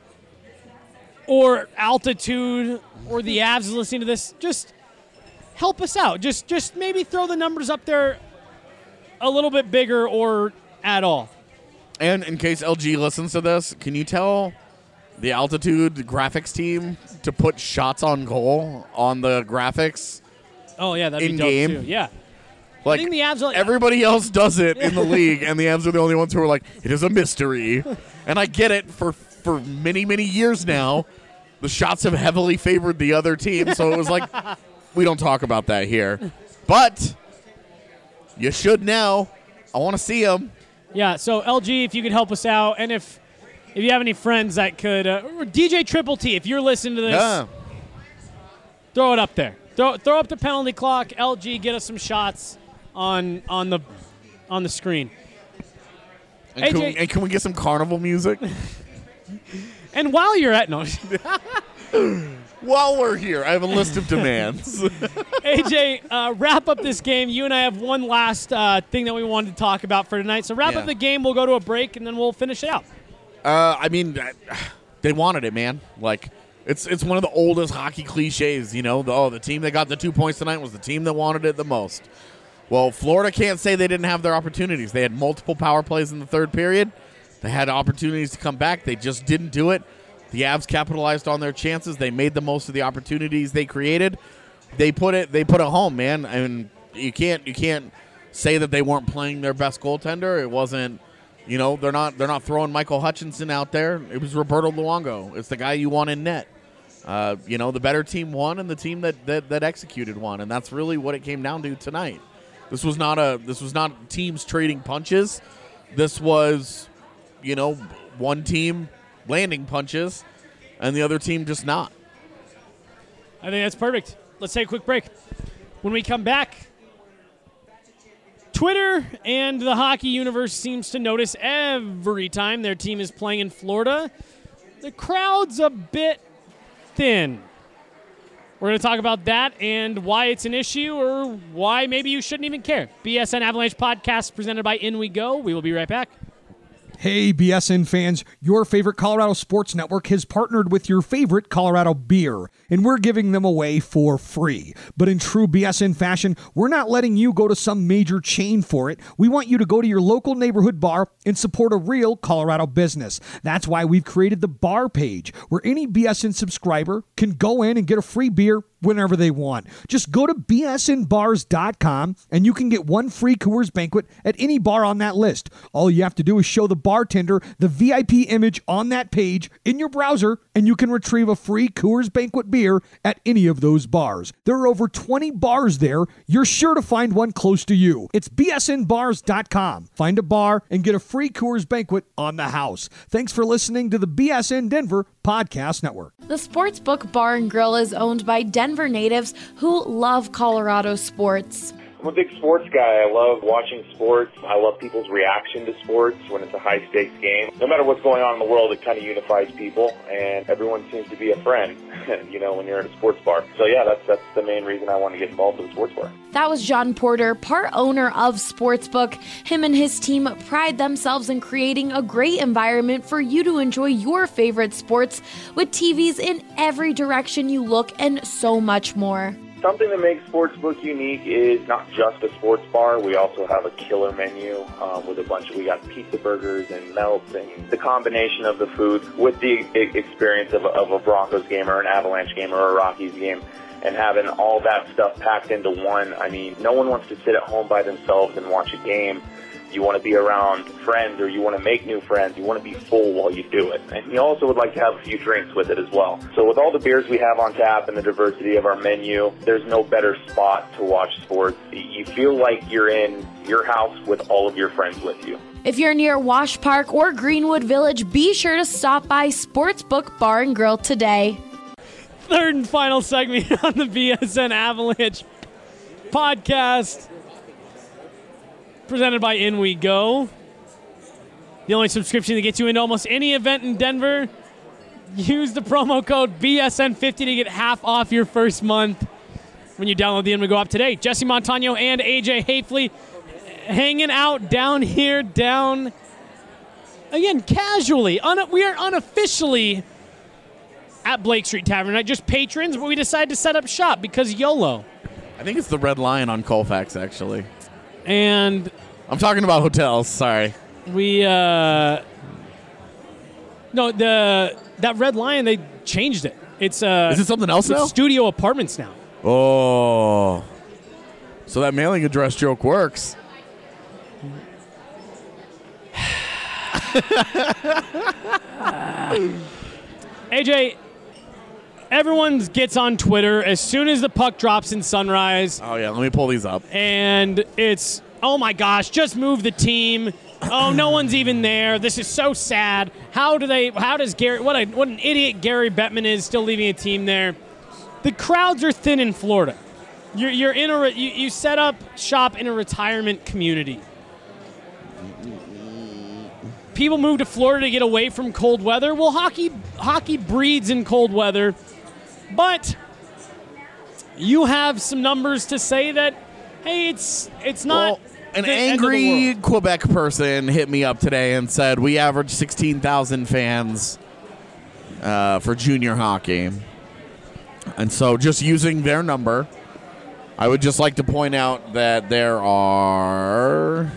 Speaker 1: or Altitude or the Avs is listening to this, just help us out. Just maybe throw the numbers up there a little bit bigger or at all.
Speaker 6: And in case LG listens to this, can you tell the Altitude graphics team to put shots on goal on the graphics?
Speaker 1: Oh, yeah, that'd be
Speaker 6: game.
Speaker 1: dope, too. Yeah.
Speaker 6: Like,
Speaker 1: I think the Avs are,
Speaker 6: everybody else does it in the league, and the Avs are the only ones who are like, it is a mystery. And I get it. For many, many years now, the shots have heavily favored the other team, so it was like, we don't talk about that here. But you should now. I want to see them.
Speaker 1: Yeah, so LG, if you could help us out, and if you have any friends that could, or DJ Triple T, if you're listening to this, throw it up there. Throw up the penalty clock. LG, get us some shots on the screen.
Speaker 6: And can we get some carnival music?
Speaker 1: And while you're at
Speaker 6: while we're here, I have a list of demands.
Speaker 1: AJ, wrap up this game. You and I have one last thing that we wanted to talk about for tonight. So wrap up the game. We'll go to a break, and then we'll finish it out.
Speaker 6: I mean, they wanted it, man. Like, it's one of the oldest hockey cliches, the team that got the 2 points tonight was the team that wanted it the most. Well, Florida can't say they didn't have their opportunities. They had multiple power plays in the third period. They had opportunities to come back. They just didn't do it. The Avs capitalized on their chances. They made the most of the opportunities they created. They put it home, man. I mean, you can't say that they weren't playing their best goaltender. It wasn't, they're not throwing Michael Hutchinson out there. It was Roberto Luongo. It's the guy you want in net. The better team won, and the team that executed won, and that's really what it came down to tonight. This was not teams trading punches. This was, one team landing punches, and the other team just not.
Speaker 1: I think that's perfect. Let's take a quick break. When we come back, Twitter and the hockey universe seems to notice every time their team is playing in Florida, the crowd's a bit thin. We're going to talk about that and why it's an issue or why maybe you shouldn't even care. BSN Avalanche Podcast presented by In We Go. We will be right back.
Speaker 7: Hey, BSN fans, your favorite Colorado Sports Network has partnered with your favorite Colorado beer, and we're giving them away for free. But in true BSN fashion, we're not letting you go to some major chain for it. We want you to go to your local neighborhood bar and support a real Colorado business. That's why we've created the bar page, where any BSN subscriber can go in and get a free beer whenever they want. Just go to bsnbars.com and you can get one free Coors Banquet at any bar on that list. All you have to do is show the bartender the VIP image on that page in your browser, and you can retrieve a free Coors Banquet beer at any of those bars. There are over 20 bars there. You're sure to find one close to you. It's bsnbars.com. Find a bar and get a free Coors Banquet on the house. Thanks for listening to the BSN Denver Podcast Network.
Speaker 8: The Sportsbook Bar and Grill is owned by Denver natives who love Colorado sports.
Speaker 9: I'm a big sports guy. I love watching sports. I love people's reaction to sports when it's a high-stakes game. No matter what's going on in the world, it kind of unifies people, and everyone seems to be a friend, when you're at a sports bar. So, yeah, that's the main reason I want to get involved with a sports bar.
Speaker 8: That was John Porter, part owner of Sportsbook. Him and his team pride themselves in creating a great environment for you to enjoy your favorite sports with TVs in every direction you look and so much more.
Speaker 9: Something that makes Sportsbook unique is not just a sports bar. We also have a killer menu with we got pizza burgers and melts, and the combination of the food with the experience of a Broncos game or an Avalanche game or a Rockies game. and having all that stuff packed into one. I mean, no one wants to sit at home by themselves and watch a game. You want to be around friends, or you want to make new friends. You want to be full while you do it. And you also would like to have a few drinks with it as well. So with all the beers we have on tap and the diversity of our menu, there's no better spot to watch sports. You feel like you're in your house with all of your friends with you.
Speaker 8: If you're near Wash Park or Greenwood Village, be sure to stop by Sportsbook Bar and Grill today.
Speaker 1: Third and final segment on the BSN Avalanche podcast, presented by In We Go. The only subscription that gets you into almost any event in Denver. Use the promo code BSN50 to get half off your first month when you download the In We Go app today. Jesse Montano and AJ Hafley hanging out down here, down again casually. We are unofficially at Blake Street Tavern, not just patrons, but we decided to set up shop because YOLO.
Speaker 6: I think it's the Red Lion on Colfax, actually.
Speaker 1: And
Speaker 6: I'm talking about hotels. Sorry.
Speaker 1: We that Red Lion, they changed it. It's
Speaker 6: is it something else now?
Speaker 1: Studio Apartments now.
Speaker 6: Oh, so that mailing address joke works.
Speaker 1: AJ, everyone gets on Twitter as soon as the puck drops in Sunrise.
Speaker 6: Oh yeah, let me pull these up.
Speaker 1: And it's, oh my gosh, just move the team. Oh, no one's even there. This is so sad. How does Gary, what an idiot Gary Bettman is, still leaving a team there. The crowds are thin in Florida. You're in you set up shop in a retirement community. People move to Florida to get away from cold weather. Well, hockey breeds in cold weather. But you have some numbers to say that, hey, it's not.
Speaker 6: Well, an angry Quebec person hit me up today and said we average 16,000 fans for junior hockey. And so just using their number, I would just like to point out that there are...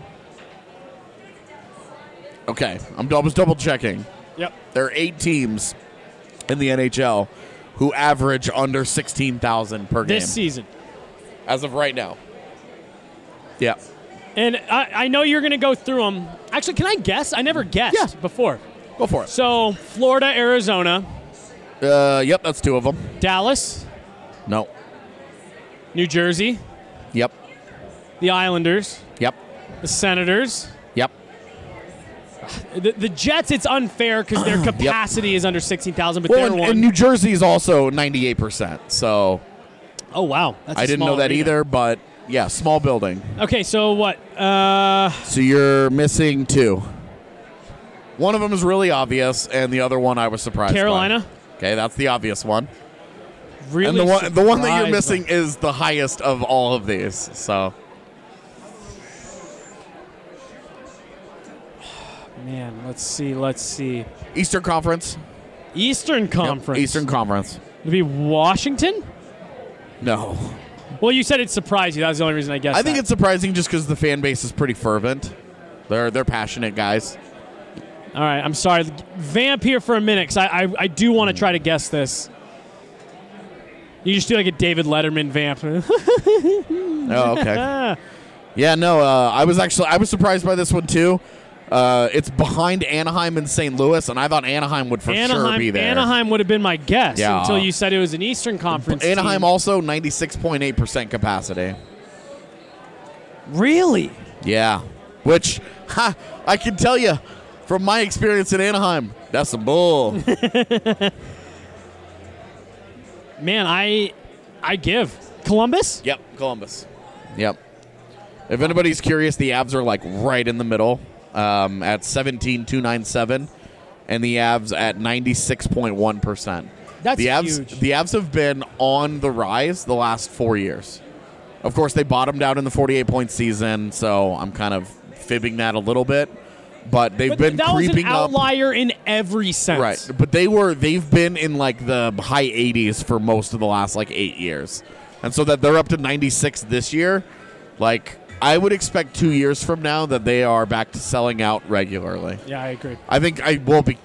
Speaker 6: Okay, I was double checking.
Speaker 1: Yep.
Speaker 6: There are 8 teams in the NHL who average under 16,000 per game.
Speaker 1: This season.
Speaker 6: As of right now. Yeah.
Speaker 1: And I know you're going to go through them. Actually, can I guess? I never guessed before.
Speaker 6: Go for it.
Speaker 1: So, Florida, Arizona.
Speaker 6: Yep, that's 2 of them.
Speaker 1: Dallas.
Speaker 6: No.
Speaker 1: New Jersey.
Speaker 6: Yep.
Speaker 1: The Islanders.
Speaker 6: Yep.
Speaker 1: The Senators.
Speaker 6: Yep.
Speaker 1: The Jets, it's unfair because their capacity is under 16,000, but they're one.
Speaker 6: And New Jersey is also 98%. So.
Speaker 1: Oh, wow. That's
Speaker 6: I didn't know that either, but yeah, small building.
Speaker 1: Okay, so what?
Speaker 6: So you're missing 2. One of them is really obvious, and the other one I was surprised
Speaker 1: Carolina.
Speaker 6: by. Okay, that's the obvious one.
Speaker 1: Really,
Speaker 6: and the one that you're missing is the highest of all of these. So,
Speaker 1: man, let's see.
Speaker 6: Eastern Conference.
Speaker 1: Eastern Conference.
Speaker 6: Yep, Eastern Conference.
Speaker 1: Would be Washington?
Speaker 6: No.
Speaker 1: Well, you said it surprised you. That was the only reason I guessed.
Speaker 6: I think it's surprising just because the fan base is pretty fervent. They're passionate guys.
Speaker 1: All right, I'm sorry. Vamp here for a minute because I do want to try to guess this. You just do like a David Letterman vamp.
Speaker 6: Oh, okay. Yeah, no, I was surprised by this one too. It's behind Anaheim and St. Louis, and I thought Anaheim would for sure be there.
Speaker 1: Anaheim would have been my guess until you said it was an Eastern Conference
Speaker 6: Anaheim
Speaker 1: team.
Speaker 6: Also 96.8% capacity.
Speaker 1: Really?
Speaker 6: Yeah. Which, I can tell you, from my experience in Anaheim, that's some bull.
Speaker 1: Man, I give. Columbus?
Speaker 6: Yep, Columbus. Yep. If anybody's curious, the Avs are like right in the middle at 17,297, and the Avs at 96.1%.
Speaker 1: That's
Speaker 6: huge. The Avs have been on the rise the last 4 years. Of course, they bottomed out in the 48-point season, so I'm kind of fibbing that a little bit. But they've been
Speaker 1: that
Speaker 6: creeping
Speaker 1: was an outlier in every sense.
Speaker 6: Right. But they've been in like the high 80s for most of the last like 8 years. And so that they're up to 96 this year, like I would expect 2 years from now that they are back to selling out regularly.
Speaker 1: Yeah, I agree.
Speaker 6: I think I will be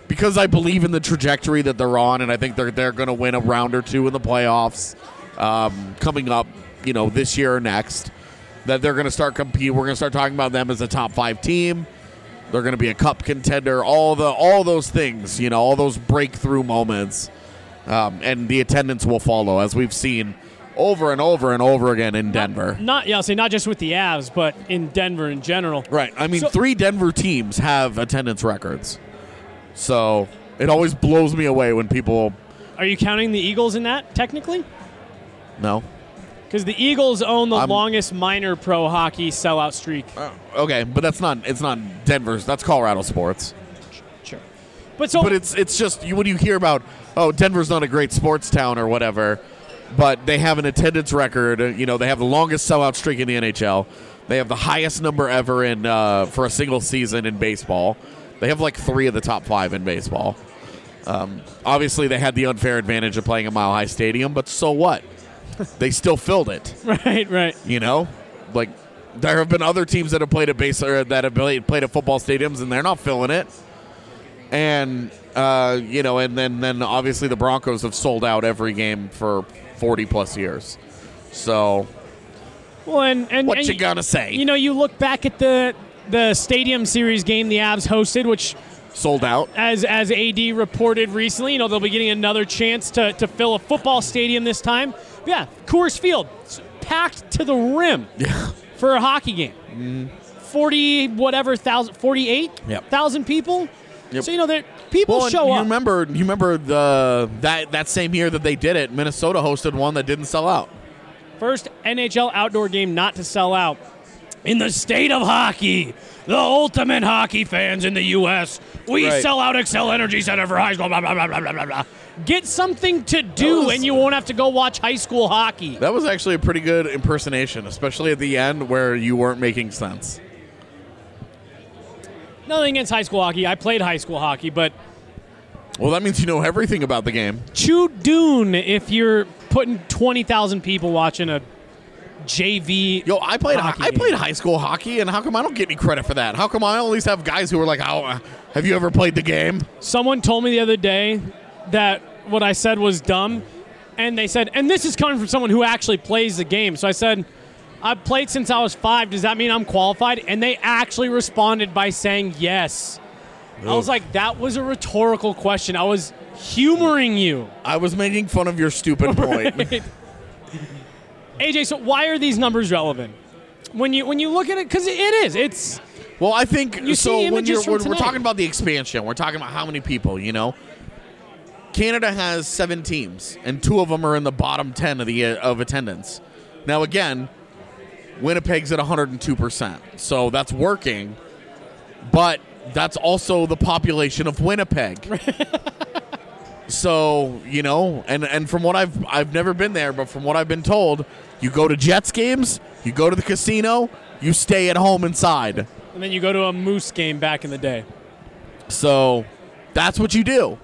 Speaker 6: because I believe in the trajectory that they're on, and I think they're going to win a round or two in the playoffs coming up, this year or next, that they're going to start competing. We're going to start talking about them as a top 5 team. They're going to be a cup contender, all those things, all those breakthrough moments, and the attendance will follow, as we've seen over and over and over again in Denver.
Speaker 1: I'll say not just with the Avs, but in Denver in general.
Speaker 6: Right. I mean, 3 Denver teams have attendance records. So it always blows me away when people...
Speaker 1: Are you counting the Eagles in that, technically?
Speaker 6: No.
Speaker 1: Because the Eagles own the longest minor pro hockey sellout streak.
Speaker 6: Okay, but it's not Denver's. That's Colorado sports.
Speaker 1: Sure.
Speaker 6: But it's just, when you hear about, Denver's not a great sports town or whatever, but they have an attendance record. They have the longest sellout streak in the NHL. They have the highest number ever in for a single season in baseball. They have like 3 of the top 5 in baseball. Obviously, they had the unfair advantage of playing a Mile High Stadium, but so what? They still filled it.
Speaker 1: Right.
Speaker 6: Like there have been other teams that have played at that have played at football stadiums, and they're not filling it. And and then obviously the Broncos have sold out every game for 40 plus years. So,
Speaker 1: well, and
Speaker 6: what you gonna say?
Speaker 1: You look back at the Stadium Series game the Avs hosted, which
Speaker 6: sold out.
Speaker 1: As AD reported recently, they'll be getting another chance to fill a football stadium this time. But yeah, Coors Field, packed to the rim for a hockey game. 48,000 people.
Speaker 6: Yep.
Speaker 1: So people show up.
Speaker 6: You remember that same year that they did it, Minnesota hosted one that didn't sell out.
Speaker 1: First NHL outdoor game not to sell out in the state of hockey. The ultimate hockey fans in the U.S. We sell out Xcel Energy Center for high school, blah, blah, blah, blah, blah, blah. Get something to do, and you won't have to go watch high school hockey.
Speaker 6: That was actually a pretty good impersonation, especially at the end where you weren't making sense.
Speaker 1: Nothing against high school hockey. I played high school hockey, but...
Speaker 6: Well, that means you know everything about the game.
Speaker 1: Chew Dune if you're putting 20,000 people watching a JV.
Speaker 6: I played high school hockey, and how come I don't get any credit for that? How come I always have guys who are like, have you ever played the game?
Speaker 1: Someone told me the other day that what I said was dumb, and they said, and this is coming from someone who actually plays the game. So I said, I've played since I was 5. Does that mean I'm qualified? And they actually responded by saying yes. Oof. I was like, that was a rhetorical question. I was humoring you.
Speaker 6: I was making fun of your stupid point.
Speaker 1: Right. AJ, so why are these numbers relevant? When you look at it, because it is. It's.
Speaker 6: Well, I think so. When we're talking about the expansion, we're talking about how many people. Canada has 7 teams, and 2 of them are in the bottom 10 of attendance. Now, again, Winnipeg's at 102%, so that's working. But that's also the population of Winnipeg. So, and from what I've never been there, but from what I've been told, you go to Jets games, you go to the casino, you stay at home inside.
Speaker 1: And then you go to a Moose game back in the day.
Speaker 6: So, that's what you do.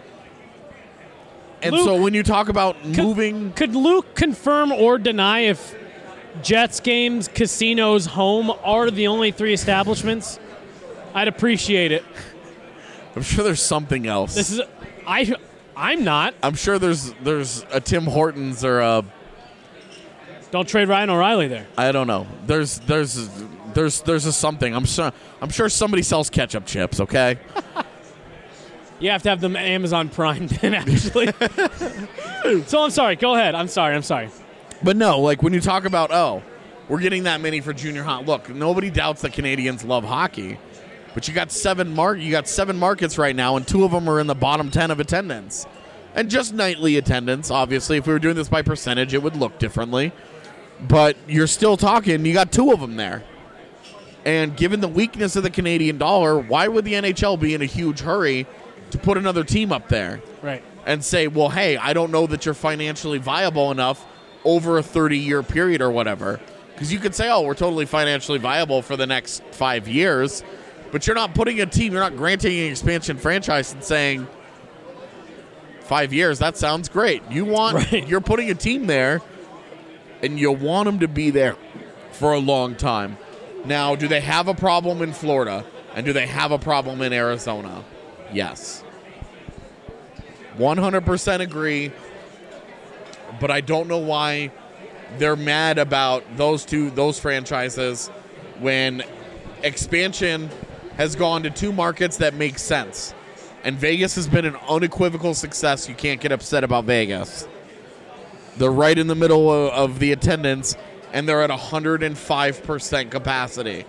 Speaker 6: And
Speaker 1: Luke,
Speaker 6: so when you talk about moving...
Speaker 1: Could Luke confirm or deny if Jets games, casinos, home are the only 3 establishments? I'd appreciate it.
Speaker 6: I'm sure there's something else.
Speaker 1: I'm not.
Speaker 6: I'm sure there's a Tim Hortons or a...
Speaker 1: Don't trade Ryan O'Reilly there.
Speaker 6: I don't know. There's a something. I'm sure somebody sells ketchup chips, okay?
Speaker 1: You have to have them Amazon Prime then, actually. So I'm sorry. Go ahead. I'm sorry.
Speaker 6: But no, like when you talk about, we're getting that many for junior hockey. Look, nobody doubts that Canadians love hockey. But you got 7 markets right now, and 2 of them are in the bottom 10 of attendance. And just nightly attendance, obviously. If we were doing this by percentage, it would look differently. But you're still talking, you got 2 of them there. And given the weakness of the Canadian dollar, why would the NHL be in a huge hurry to put another team up there?
Speaker 1: Right.
Speaker 6: And say, well, hey, I don't know that you're financially viable enough over a 30-year period or whatever. Because you could say, we're totally financially viable for the next 5 years. But you're not putting a team, you're not granting an expansion franchise and saying 5 years, that sounds great. You're putting a team there, and you want them to be there for a long time. Now, do they have a problem in Florida? And do they have a problem in Arizona? Yes. 100% agree, but I don't know why they're mad about those franchises when expansion has gone to 2 markets that make sense. And Vegas has been an unequivocal success. You can't get upset about Vegas. They're right in the middle of the attendance, and they're at 105% capacity.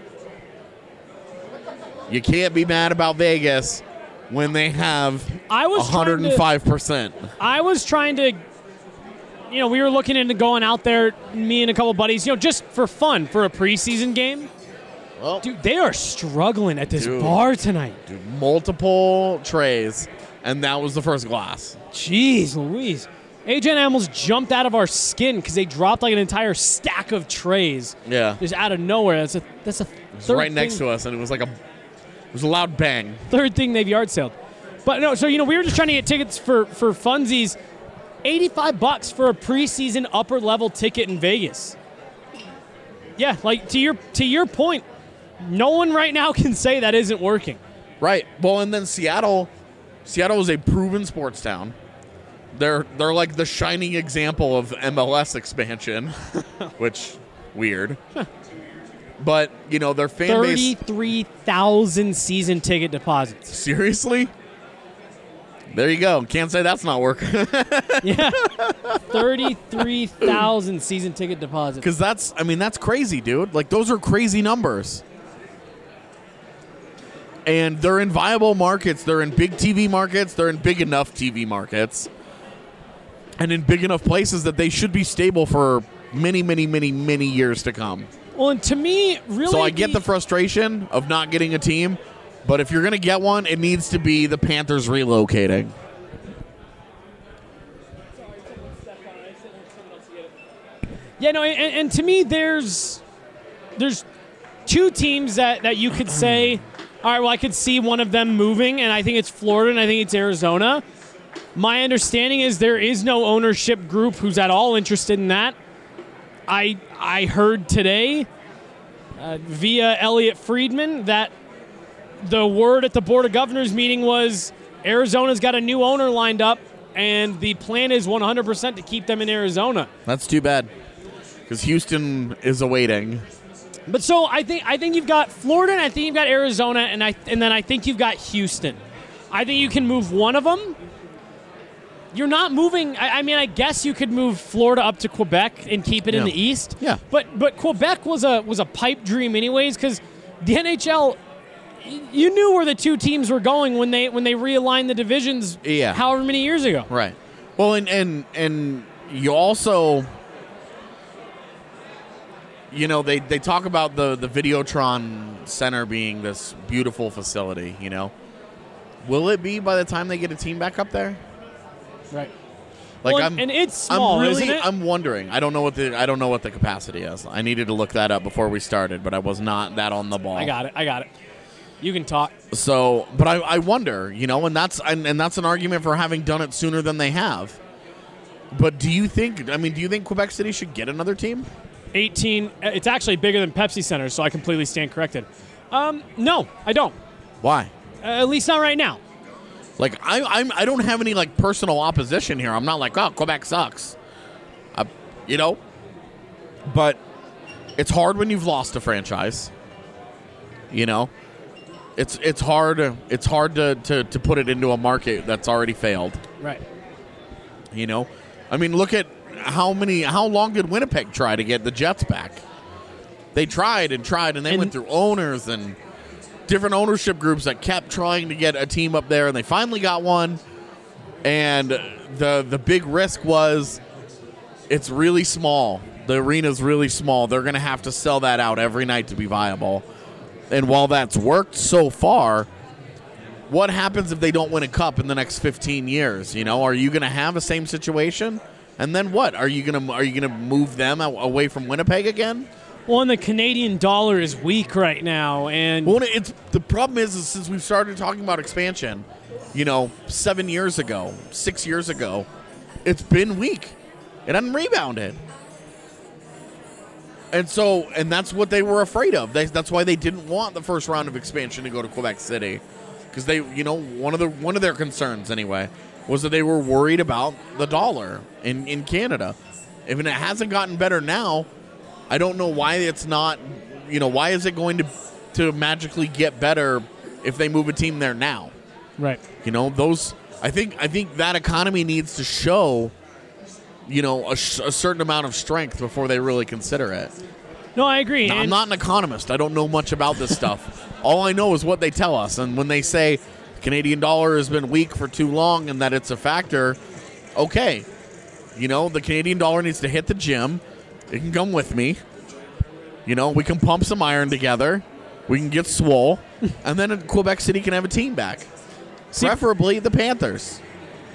Speaker 6: You can't be mad about Vegas when they have 105%.
Speaker 1: I was trying to, we were looking into going out there, me and a couple buddies, just for fun, for a preseason game.
Speaker 6: Well,
Speaker 1: dude, they are struggling at this bar tonight.
Speaker 6: Dude, multiple trays, and that was the first glass.
Speaker 1: Jeez Louise. AJ and I almost jumped out of our skin because they dropped like an entire stack of trays.
Speaker 6: Yeah.
Speaker 1: Just out of nowhere. That's a third
Speaker 6: right next to us, and it was like a loud bang.
Speaker 1: Third thing they've yard saled. But no, so we were just trying to get tickets for funsies. $85 for a preseason upper level ticket in Vegas. Yeah, like to your point, no one right now can say that isn't working.
Speaker 6: Right. Well, and then Seattle is a proven sports town. They're like the shining example of MLS expansion, which weird. But, their fan base
Speaker 1: 33,000 season ticket deposits.
Speaker 6: Seriously? There you go. Can't say that's not working.
Speaker 1: Yeah. 33,000 season ticket deposits.
Speaker 6: Because that's crazy, dude. Like, those are crazy numbers. And they're in viable markets. They're in big TV markets. They're in big enough TV markets. And in big enough places that they should be stable for many, many, many, many years to come.
Speaker 1: Well, and to me, really...
Speaker 6: So I get the frustration of not getting a team, but if you're going to get one, it needs to be the Panthers relocating.
Speaker 1: Yeah, no, and to me, there's 2 teams that you could say, all right, well, I could see one of them moving, and I think it's Florida and I think it's Arizona. My understanding is there is no ownership group who's at all interested in that. I heard today via Elliot Friedman that the word at the Board of Governors meeting was Arizona's got a new owner lined up, and the plan is 100% to keep them in Arizona.
Speaker 6: That's too bad, because Houston is awaiting.
Speaker 1: But so I think you've got Florida, and I think you've got Arizona, and then I think you've got Houston. I think you can move one of them. You're not moving. I guess you could move Florida up to Quebec and keep it in the East.
Speaker 6: Yeah.
Speaker 1: But Quebec was a pipe dream anyways, because the NHL, you knew where the 2 teams were going when they realigned the divisions.
Speaker 6: Yeah.
Speaker 1: However many years ago.
Speaker 6: Right. Well, and you also, they talk about the Videotron Center being this beautiful facility. Will it be by the time they get a team back up there?
Speaker 1: Right.
Speaker 6: Like,
Speaker 1: well, and it's small, isn't it?
Speaker 6: I'm wondering. I don't know what the capacity is. I needed to look that up before we started, but I was not that on the ball.
Speaker 1: I got it. You can talk.
Speaker 6: So, but I wonder, and that's an argument for having done it sooner than they have. But do you think Quebec City should get another team?
Speaker 1: 18. It's actually bigger than Pepsi Center, so I completely stand corrected. No, I don't.
Speaker 6: Why?
Speaker 1: At least not right now.
Speaker 6: Like, I don't have any, like, personal opposition here. I'm not like, oh, Quebec sucks. But it's hard when you've lost a franchise. It's hard to put it into a market that's already failed.
Speaker 1: Right.
Speaker 6: Look at how long did Winnipeg try to get the Jets back? They tried, and they went through owners and different ownership groups that kept trying to get a team up there, and they finally got one. And the big risk was it's really small. The arena's really small. They're going to have to sell that out every night to be viable. And while that's worked so far, what happens if they don't win a cup in the next 15 years? Are you going to have the same situation? And then what? Are you going to move them away from Winnipeg again?
Speaker 1: Well, and the Canadian dollar is weak right now, and
Speaker 6: the problem is since we've started talking about expansion, 7 years ago, 6 years ago, it's been weak. It hasn't rebounded. And that's what they were afraid of. That's why they didn't want the first round of expansion to go to Quebec City, because they, one of their concerns anyway was that they were worried about the dollar in Canada. If it hasn't gotten better now, I don't know why it's not, why is it going to magically get better if they move a team there now?
Speaker 1: Right.
Speaker 6: I think that economy needs to show, a certain amount of strength before they really consider it.
Speaker 1: No, I agree.
Speaker 6: Now, I'm not an economist. I don't know much about this stuff. All I know is what they tell us. And when they say the Canadian dollar has been weak for too long and that it's a factor, okay. The Canadian dollar needs to hit the gym. It can come with me. We can pump some iron together. We can get swole. And then Quebec City can have a team back. Preferably the Panthers.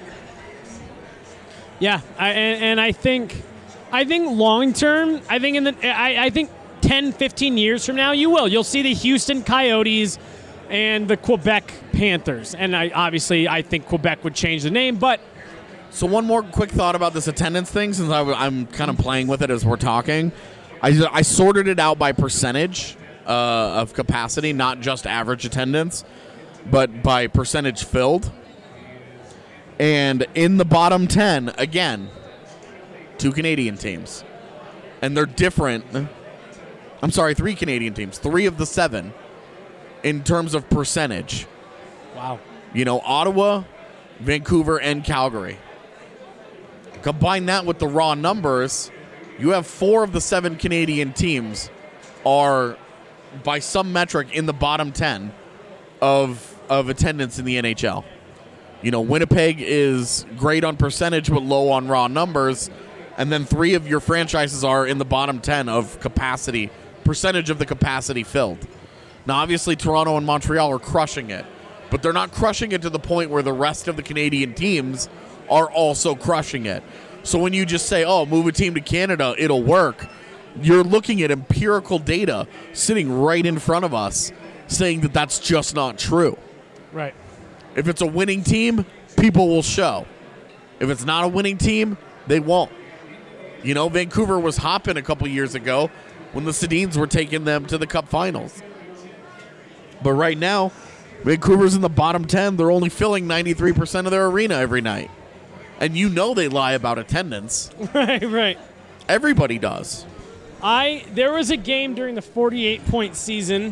Speaker 1: Yeah, I think long term, I think 10, 15 years from now, you'll see the Houston Coyotes and the Quebec Panthers. And I think Quebec would change the name, but.
Speaker 6: So one more quick thought about this attendance thing, since I'm kind of playing with it as we're talking. I sorted it out by percentage of capacity, not just average attendance, but by percentage filled. And in the bottom 10, again, 2 Canadian teams. And they're different. I'm sorry, 3 Canadian teams. 3 of the 7 in terms of percentage.
Speaker 1: Wow.
Speaker 6: Ottawa, Vancouver, and Calgary. Combine that with the raw numbers, you have 4 of the 7 Canadian teams are, by some metric, in the bottom 10 of attendance in the NHL. Winnipeg is great on percentage but low on raw numbers, and then 3 of your franchises are in the bottom 10 of capacity, percentage of the capacity filled. Now, obviously, Toronto and Montreal are crushing it, but they're not crushing it to the point where the rest of the Canadian teams are also crushing it. So when you just say, move a team to Canada, it'll work, you're looking at empirical data sitting right in front of us saying that that's just not true.
Speaker 1: Right.
Speaker 6: If it's a winning team, people will show. If it's not a winning team, they won't. Vancouver was hopping a couple years ago when the Sedins were taking them to the Cup Finals. But right now, Vancouver's in the bottom 10. They're only filling 93% of their arena every night. And they lie about attendance.
Speaker 1: Right.
Speaker 6: Everybody does.
Speaker 1: There was a game during the 48-point season.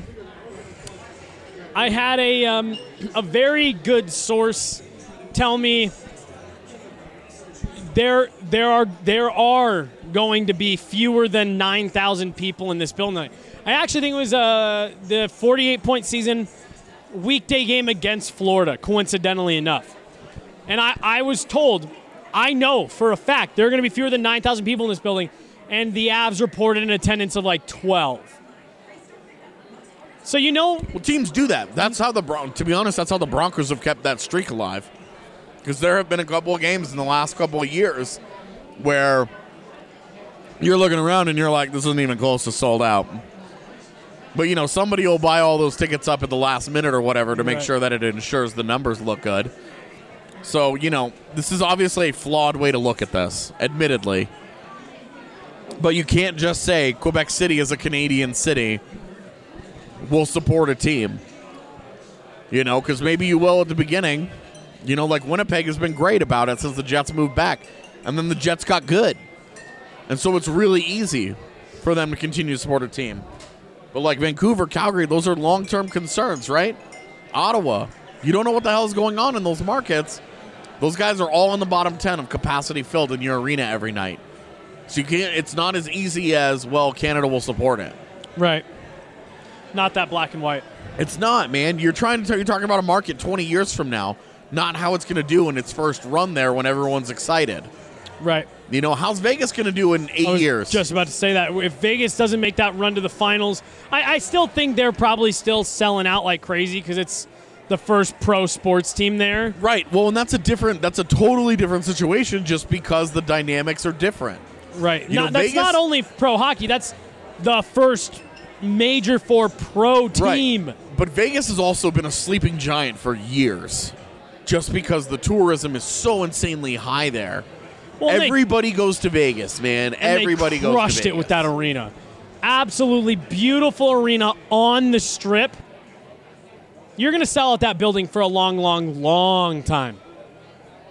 Speaker 1: I had a very good source tell me there are going to be fewer than 9,000 people in this building. I actually think it was the 48-point season weekday game against Florida, coincidentally enough. And I was told, I know for a fact, there are going to be fewer than 9,000 people in this building, and the Avs reported an attendance of like 12. So well,
Speaker 6: teams do that. That's how to be honest, that's how the Broncos have kept that streak alive. Because there have been a couple of games in the last couple of years where you're looking around and you're like, this isn't even close to sold out. But, somebody will buy all those tickets up at the last minute or whatever to make sure that it ensures the numbers look good. So, this is obviously a flawed way to look at this, admittedly. But you can't just say Quebec City is a Canadian city. Will support a team. Because maybe you will at the beginning. Like Winnipeg has been great about it since the Jets moved back. And then the Jets got good. And so it's really easy for them to continue to support a team. But like Vancouver, Calgary, those are long-term concerns, right? Ottawa, you don't know what the hell is going on in those markets. Those guys are all in the bottom 10 of capacity filled in your arena every night. So it's not as easy as, Canada will support it.
Speaker 1: Right. Not that black and white.
Speaker 6: It's not, man. You're talking about a market 20 years from now, not how it's going to do in its first run there when everyone's excited.
Speaker 1: Right.
Speaker 6: How's Vegas going to do in 8 years?
Speaker 1: Just about to say that. If Vegas doesn't make that run to the finals, I still think they're probably still selling out like crazy because it's the first pro sports team there.
Speaker 6: Right. Well, and that's a totally different situation just because the dynamics are different.
Speaker 1: Right. That's not only pro hockey. That's the first Major 4 pro team.
Speaker 6: Right. But Vegas has also been a sleeping giant for years just because the tourism is so insanely high there. Well, everybody goes to Vegas, man. Everybody goes to Vegas.
Speaker 1: They crushed it with that arena. Absolutely beautiful arena on the Strip. You're going to sell out that building for a long, long, long time.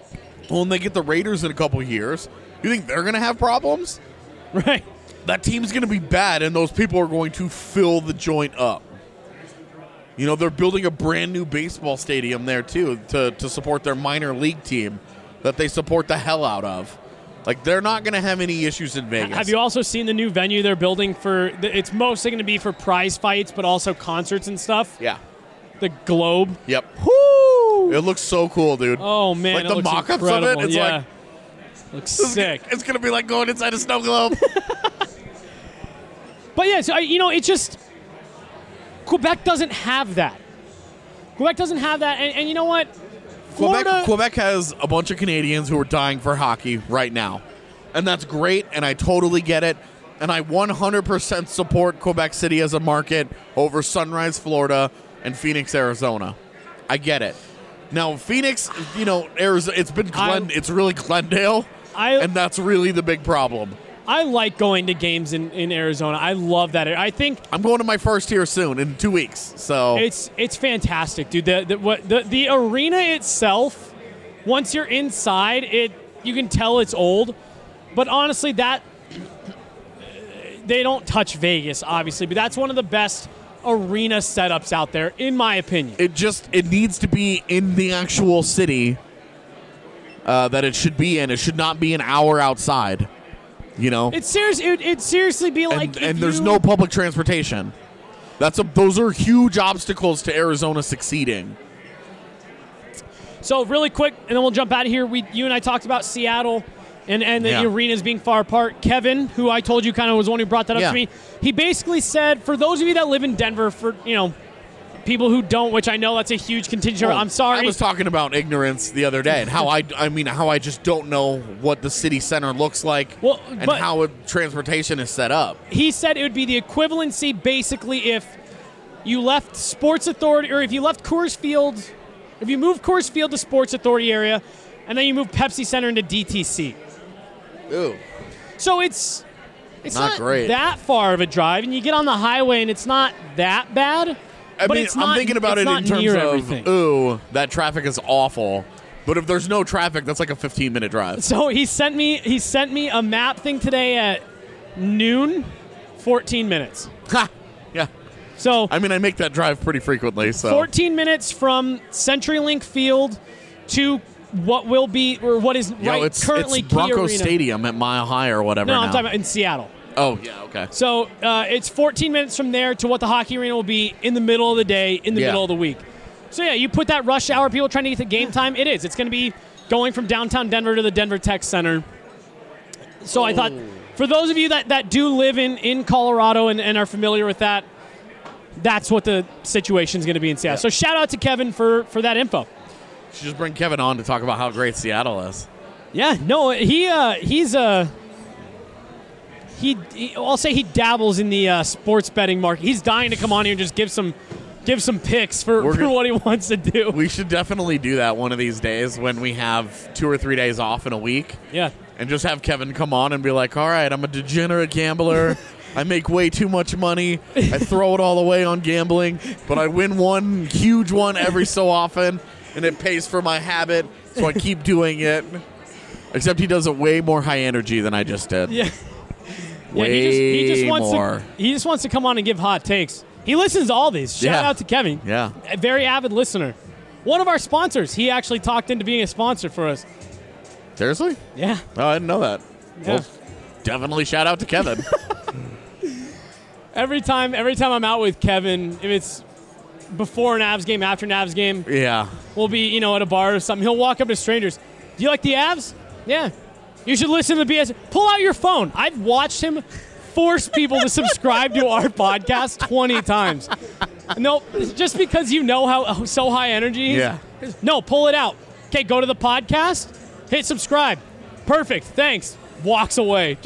Speaker 6: Well, when they get the Raiders in a couple years, you think they're going to have problems?
Speaker 1: Right.
Speaker 6: That team's going to be bad, and those people are going to fill the joint up. You know, they're building a brand new baseball stadium there, too, to support their minor league team that they support the hell out of. Like, they're not going to have any issues in Vegas.
Speaker 1: Have you also seen the new venue they're building for? It's mostly going to be for prize fights, but also concerts and stuff.
Speaker 6: Yeah.
Speaker 1: The Globe.
Speaker 6: Yep.
Speaker 1: Woo!
Speaker 6: It looks so cool, dude.
Speaker 1: Oh, man.
Speaker 6: Like
Speaker 1: it
Speaker 6: the
Speaker 1: looks
Speaker 6: mock-ups
Speaker 1: incredible.
Speaker 6: of it, it's
Speaker 1: yeah.
Speaker 6: like...
Speaker 1: Looks sick.
Speaker 6: It's going to be like going inside a snow globe.
Speaker 1: But, yeah, so, it's just... Quebec doesn't have that. Quebec doesn't have that, and you know what?
Speaker 6: Quebec has a bunch of Canadians who are dying for hockey right now. And that's great, and I totally get it. And I 100% support Quebec City as a market over Sunrise, Florida, and Phoenix, Arizona. I get it. Now, Phoenix, Arizona, it's really Glendale, and that's really the big problem.
Speaker 1: I like going to games in Arizona. I love that. I think
Speaker 6: I'm going to my first here soon in 2 weeks. So
Speaker 1: it's fantastic, dude. The arena itself, once you're inside, you can tell it's old. But honestly, they don't touch Vegas, obviously. But that's one of the best arena setups out there, in my opinion.
Speaker 6: It needs to be in the actual city that it should be in. It should not be an hour outside.
Speaker 1: It'd seriously be like,
Speaker 6: and there's no public transportation. Those are huge obstacles to Arizona succeeding.
Speaker 1: So really quick, and then we'll jump out of here. You and I talked about Seattle and the arenas being far apart. Kevin, who I told you kind of was the one who brought that up to me, he basically said, for those of you that live in Denver, for people who don't, which I know that's a huge contingent. I'm sorry.
Speaker 6: I was talking about ignorance the other day and how I just don't know what the city center looks like and how transportation is set up.
Speaker 1: He said it would be the equivalency basically if you left Sports Authority, or if you left Coors Field, if you moved Coors Field to Sports Authority area and then you moved Pepsi Center into DTC.
Speaker 6: Ooh.
Speaker 1: So it's not
Speaker 6: great.
Speaker 1: That far of a drive, and you get on the highway and it's not that bad.
Speaker 6: I'm thinking about it in terms of,
Speaker 1: everything.
Speaker 6: That traffic is awful. But if there's no traffic, that's like a 15-minute drive.
Speaker 1: So he sent me a map thing today at noon, 14 minutes.
Speaker 6: Ha! Yeah.
Speaker 1: So
Speaker 6: I make that drive pretty frequently. So
Speaker 1: 14 minutes from CenturyLink Field to what will be, or what is currently
Speaker 6: it's Bronco
Speaker 1: Key Arena.
Speaker 6: Stadium at Mile High or whatever.
Speaker 1: No,
Speaker 6: now.
Speaker 1: I'm talking about in Seattle.
Speaker 6: Oh, yeah, okay.
Speaker 1: So it's 14 minutes from there to what the hockey arena will be in the middle of the day, in the middle of the week. So, yeah, you put that rush hour, people trying to get to game time, it is. It's going to be going from downtown Denver to the Denver Tech Center. So I thought, for those of you that do live in Colorado and are familiar with that, that's what the situation is going to be in Seattle. Yeah. So shout out to Kevin for that info.
Speaker 6: You should just bring Kevin on to talk about how great Seattle is.
Speaker 1: Yeah, no, I'll say he dabbles in the sports betting market. He's dying to come on here and just give some picks for what he wants to do.
Speaker 6: We should definitely do that one of these days when we have 2 or 3 days off in a week.
Speaker 1: Yeah.
Speaker 6: And just have Kevin come on and be like, all right, I'm a degenerate gambler. I make way too much money. I throw it all away on gambling, but I win one huge one every so often, and it pays for my habit, so I keep doing it. Except he does it way more high energy than I just did.
Speaker 1: Yeah.
Speaker 6: Way
Speaker 1: he just wants
Speaker 6: more.
Speaker 1: He just wants to come on and give hot takes. He listens to all these. Shout out to Kevin.
Speaker 6: Yeah.
Speaker 1: A very avid listener. One of our sponsors. He actually talked into being a sponsor for us.
Speaker 6: Seriously?
Speaker 1: Yeah.
Speaker 6: Oh, I didn't know that.
Speaker 1: Yeah.
Speaker 6: Well, definitely shout out to Kevin.
Speaker 1: Every time I'm out with Kevin, if it's before an Avs game, after an Avs game,
Speaker 6: yeah,
Speaker 1: we'll be, at a bar or something. He'll walk up to strangers. Do you like the Avs? Yeah. You should listen to the BS. Pull out your phone. I've watched him force people to subscribe to our podcast 20 times. No, just because you know how so high energy he is.
Speaker 6: Yeah.
Speaker 1: No, pull it out. Okay, go to the podcast, hit subscribe. Perfect, thanks. Walks away.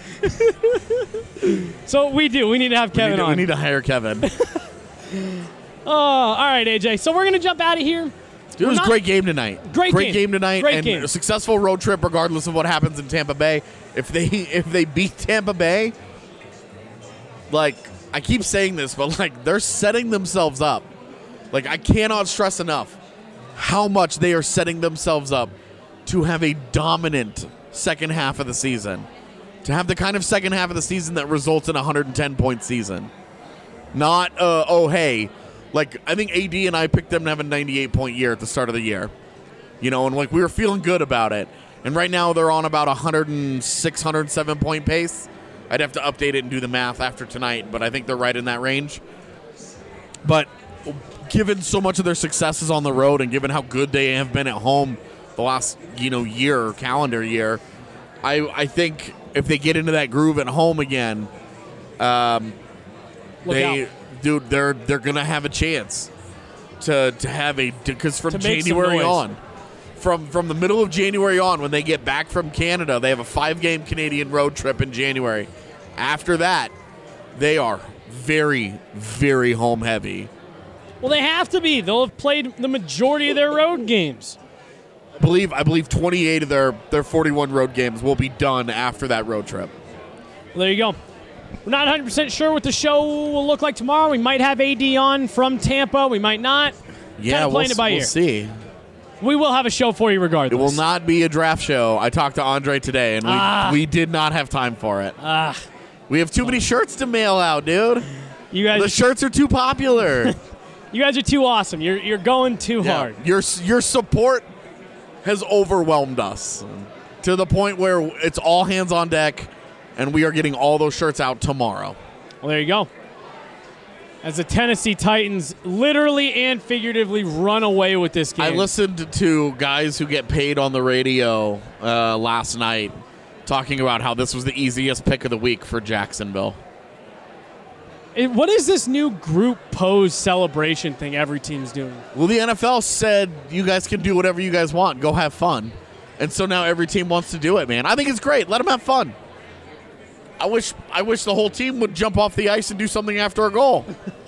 Speaker 1: So we need to have Kevin on.
Speaker 6: We need to hire Kevin.
Speaker 1: Oh, all right, AJ. So we're going to jump out of here.
Speaker 6: It was a great game tonight.
Speaker 1: Great game
Speaker 6: tonight.
Speaker 1: Great
Speaker 6: and
Speaker 1: game.
Speaker 6: A successful road trip regardless of what happens in Tampa Bay. If they beat Tampa Bay, like, I keep saying this, but like, they're setting themselves up. Like, I cannot stress enough how much they are setting themselves up to have a dominant second half of the season. To have the kind of second half of the season that results in a 110-point season. Not, hey, like, I think AD and I picked them to have a 98-point year at the start of the year. You know, and, like, we were feeling good about it. And right now they're on about 106, 107-point pace. I'd have to update it and do the math after tonight, but I think they're right in that range. But given so much of their successes on the road and given how good they have been at home the last, year, calendar year, I think if they get into that groove at home again, they're going to have a chance to have because from January on, from the middle of January on, when they get back from Canada, they have a 5-game Canadian road trip in January. After that, they are very, very home heavy.
Speaker 1: Well, they have to be. They'll have played the majority of their road games.
Speaker 6: I believe 28 of their 41 road games will be done after that road trip.
Speaker 1: Well, there you go. We're not 100% sure what the show will look like tomorrow. We might have AD on from Tampa. We might not.
Speaker 6: Yeah, we'll see.
Speaker 1: We will have a show for you regardless.
Speaker 6: It will not be a draft show. I talked to Andre today, and we did not have time for it. We have too many shirts to mail out, dude. The shirts are too popular.
Speaker 1: You guys are too awesome. You're going too hard.
Speaker 6: Your support has overwhelmed us to the point where it's all hands on deck, and we are getting all those shirts out tomorrow.
Speaker 1: Well, there you go. As the Tennessee Titans literally and figuratively run away with this game.
Speaker 6: I listened to guys who get paid on the radio last night talking about how this was the easiest pick of the week for Jacksonville.
Speaker 1: What is this new group pose celebration thing every team's doing?
Speaker 6: Well, the NFL said you guys can do whatever you guys want. Go have fun. And so now every team wants to do it, man. I think it's great. Let them have fun. I wish the whole team would jump off the ice and do something after a goal.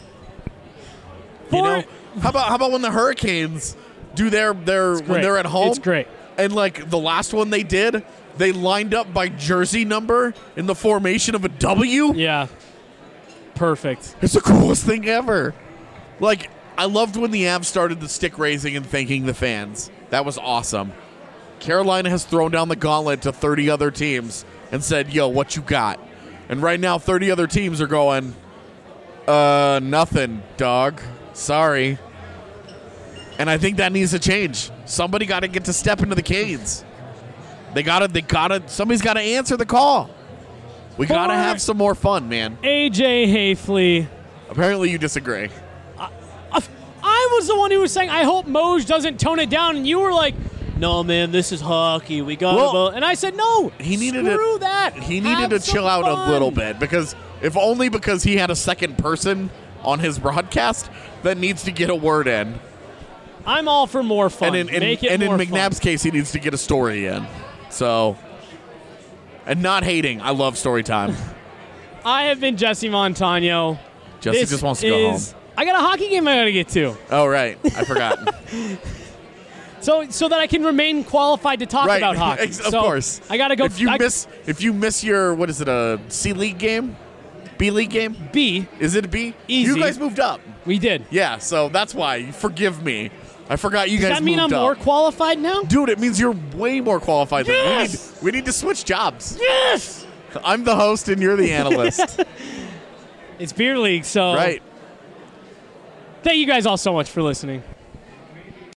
Speaker 6: How about when the Hurricanes do their when they're at home?
Speaker 1: It's great.
Speaker 6: And like the last one they did, they lined up by jersey number in the formation of a W.
Speaker 1: Yeah. Perfect.
Speaker 6: It's the coolest thing ever. Like, I loved when the Avs started the stick raising and thanking the fans. That was awesome. Carolina has thrown down the gauntlet to 30 other teams and said, yo, what you got? And right now, 30 other teams are going, nothing, dog. Sorry. And I think that needs to change. Somebody got to get to step into the Canes. Somebody's got to answer the call. We got to have some more fun, man.
Speaker 1: AJ Hafley.
Speaker 6: Apparently you disagree.
Speaker 1: I was the one who was saying, I hope Moj doesn't tone it down. And you were like, no, man, this is hockey. We got to vote. And I said, no, screw that.
Speaker 6: He needed to chill out a little bit because he had a second person on his broadcast that needs to get a word in.
Speaker 1: I'm all for more fun.
Speaker 6: And in McNabb's case, he needs to get a story in. So... And not hating. I love story time.
Speaker 1: I have been Jesse Montano.
Speaker 6: Jesse just wants to go home.
Speaker 1: I got a hockey game I got to get to.
Speaker 6: Oh, right. I forgot.
Speaker 1: so that I can remain qualified to talk about hockey.
Speaker 6: Of course.
Speaker 1: I got to go.
Speaker 6: If you miss your, what is it, a C-League game? B-League game?
Speaker 1: B.
Speaker 6: Is it a B?
Speaker 1: Easy.
Speaker 6: You guys moved up.
Speaker 1: We did.
Speaker 6: Yeah, so that's why. Forgive me. I forgot you guys moved up.
Speaker 1: Does that mean I'm more qualified now?
Speaker 6: Dude, it means you're way more qualified.
Speaker 1: Yes!
Speaker 6: We need to switch jobs.
Speaker 1: Yes!
Speaker 6: I'm the host and you're the analyst.
Speaker 1: It's Beer League, so...
Speaker 6: Right.
Speaker 1: Thank you guys all so much for listening.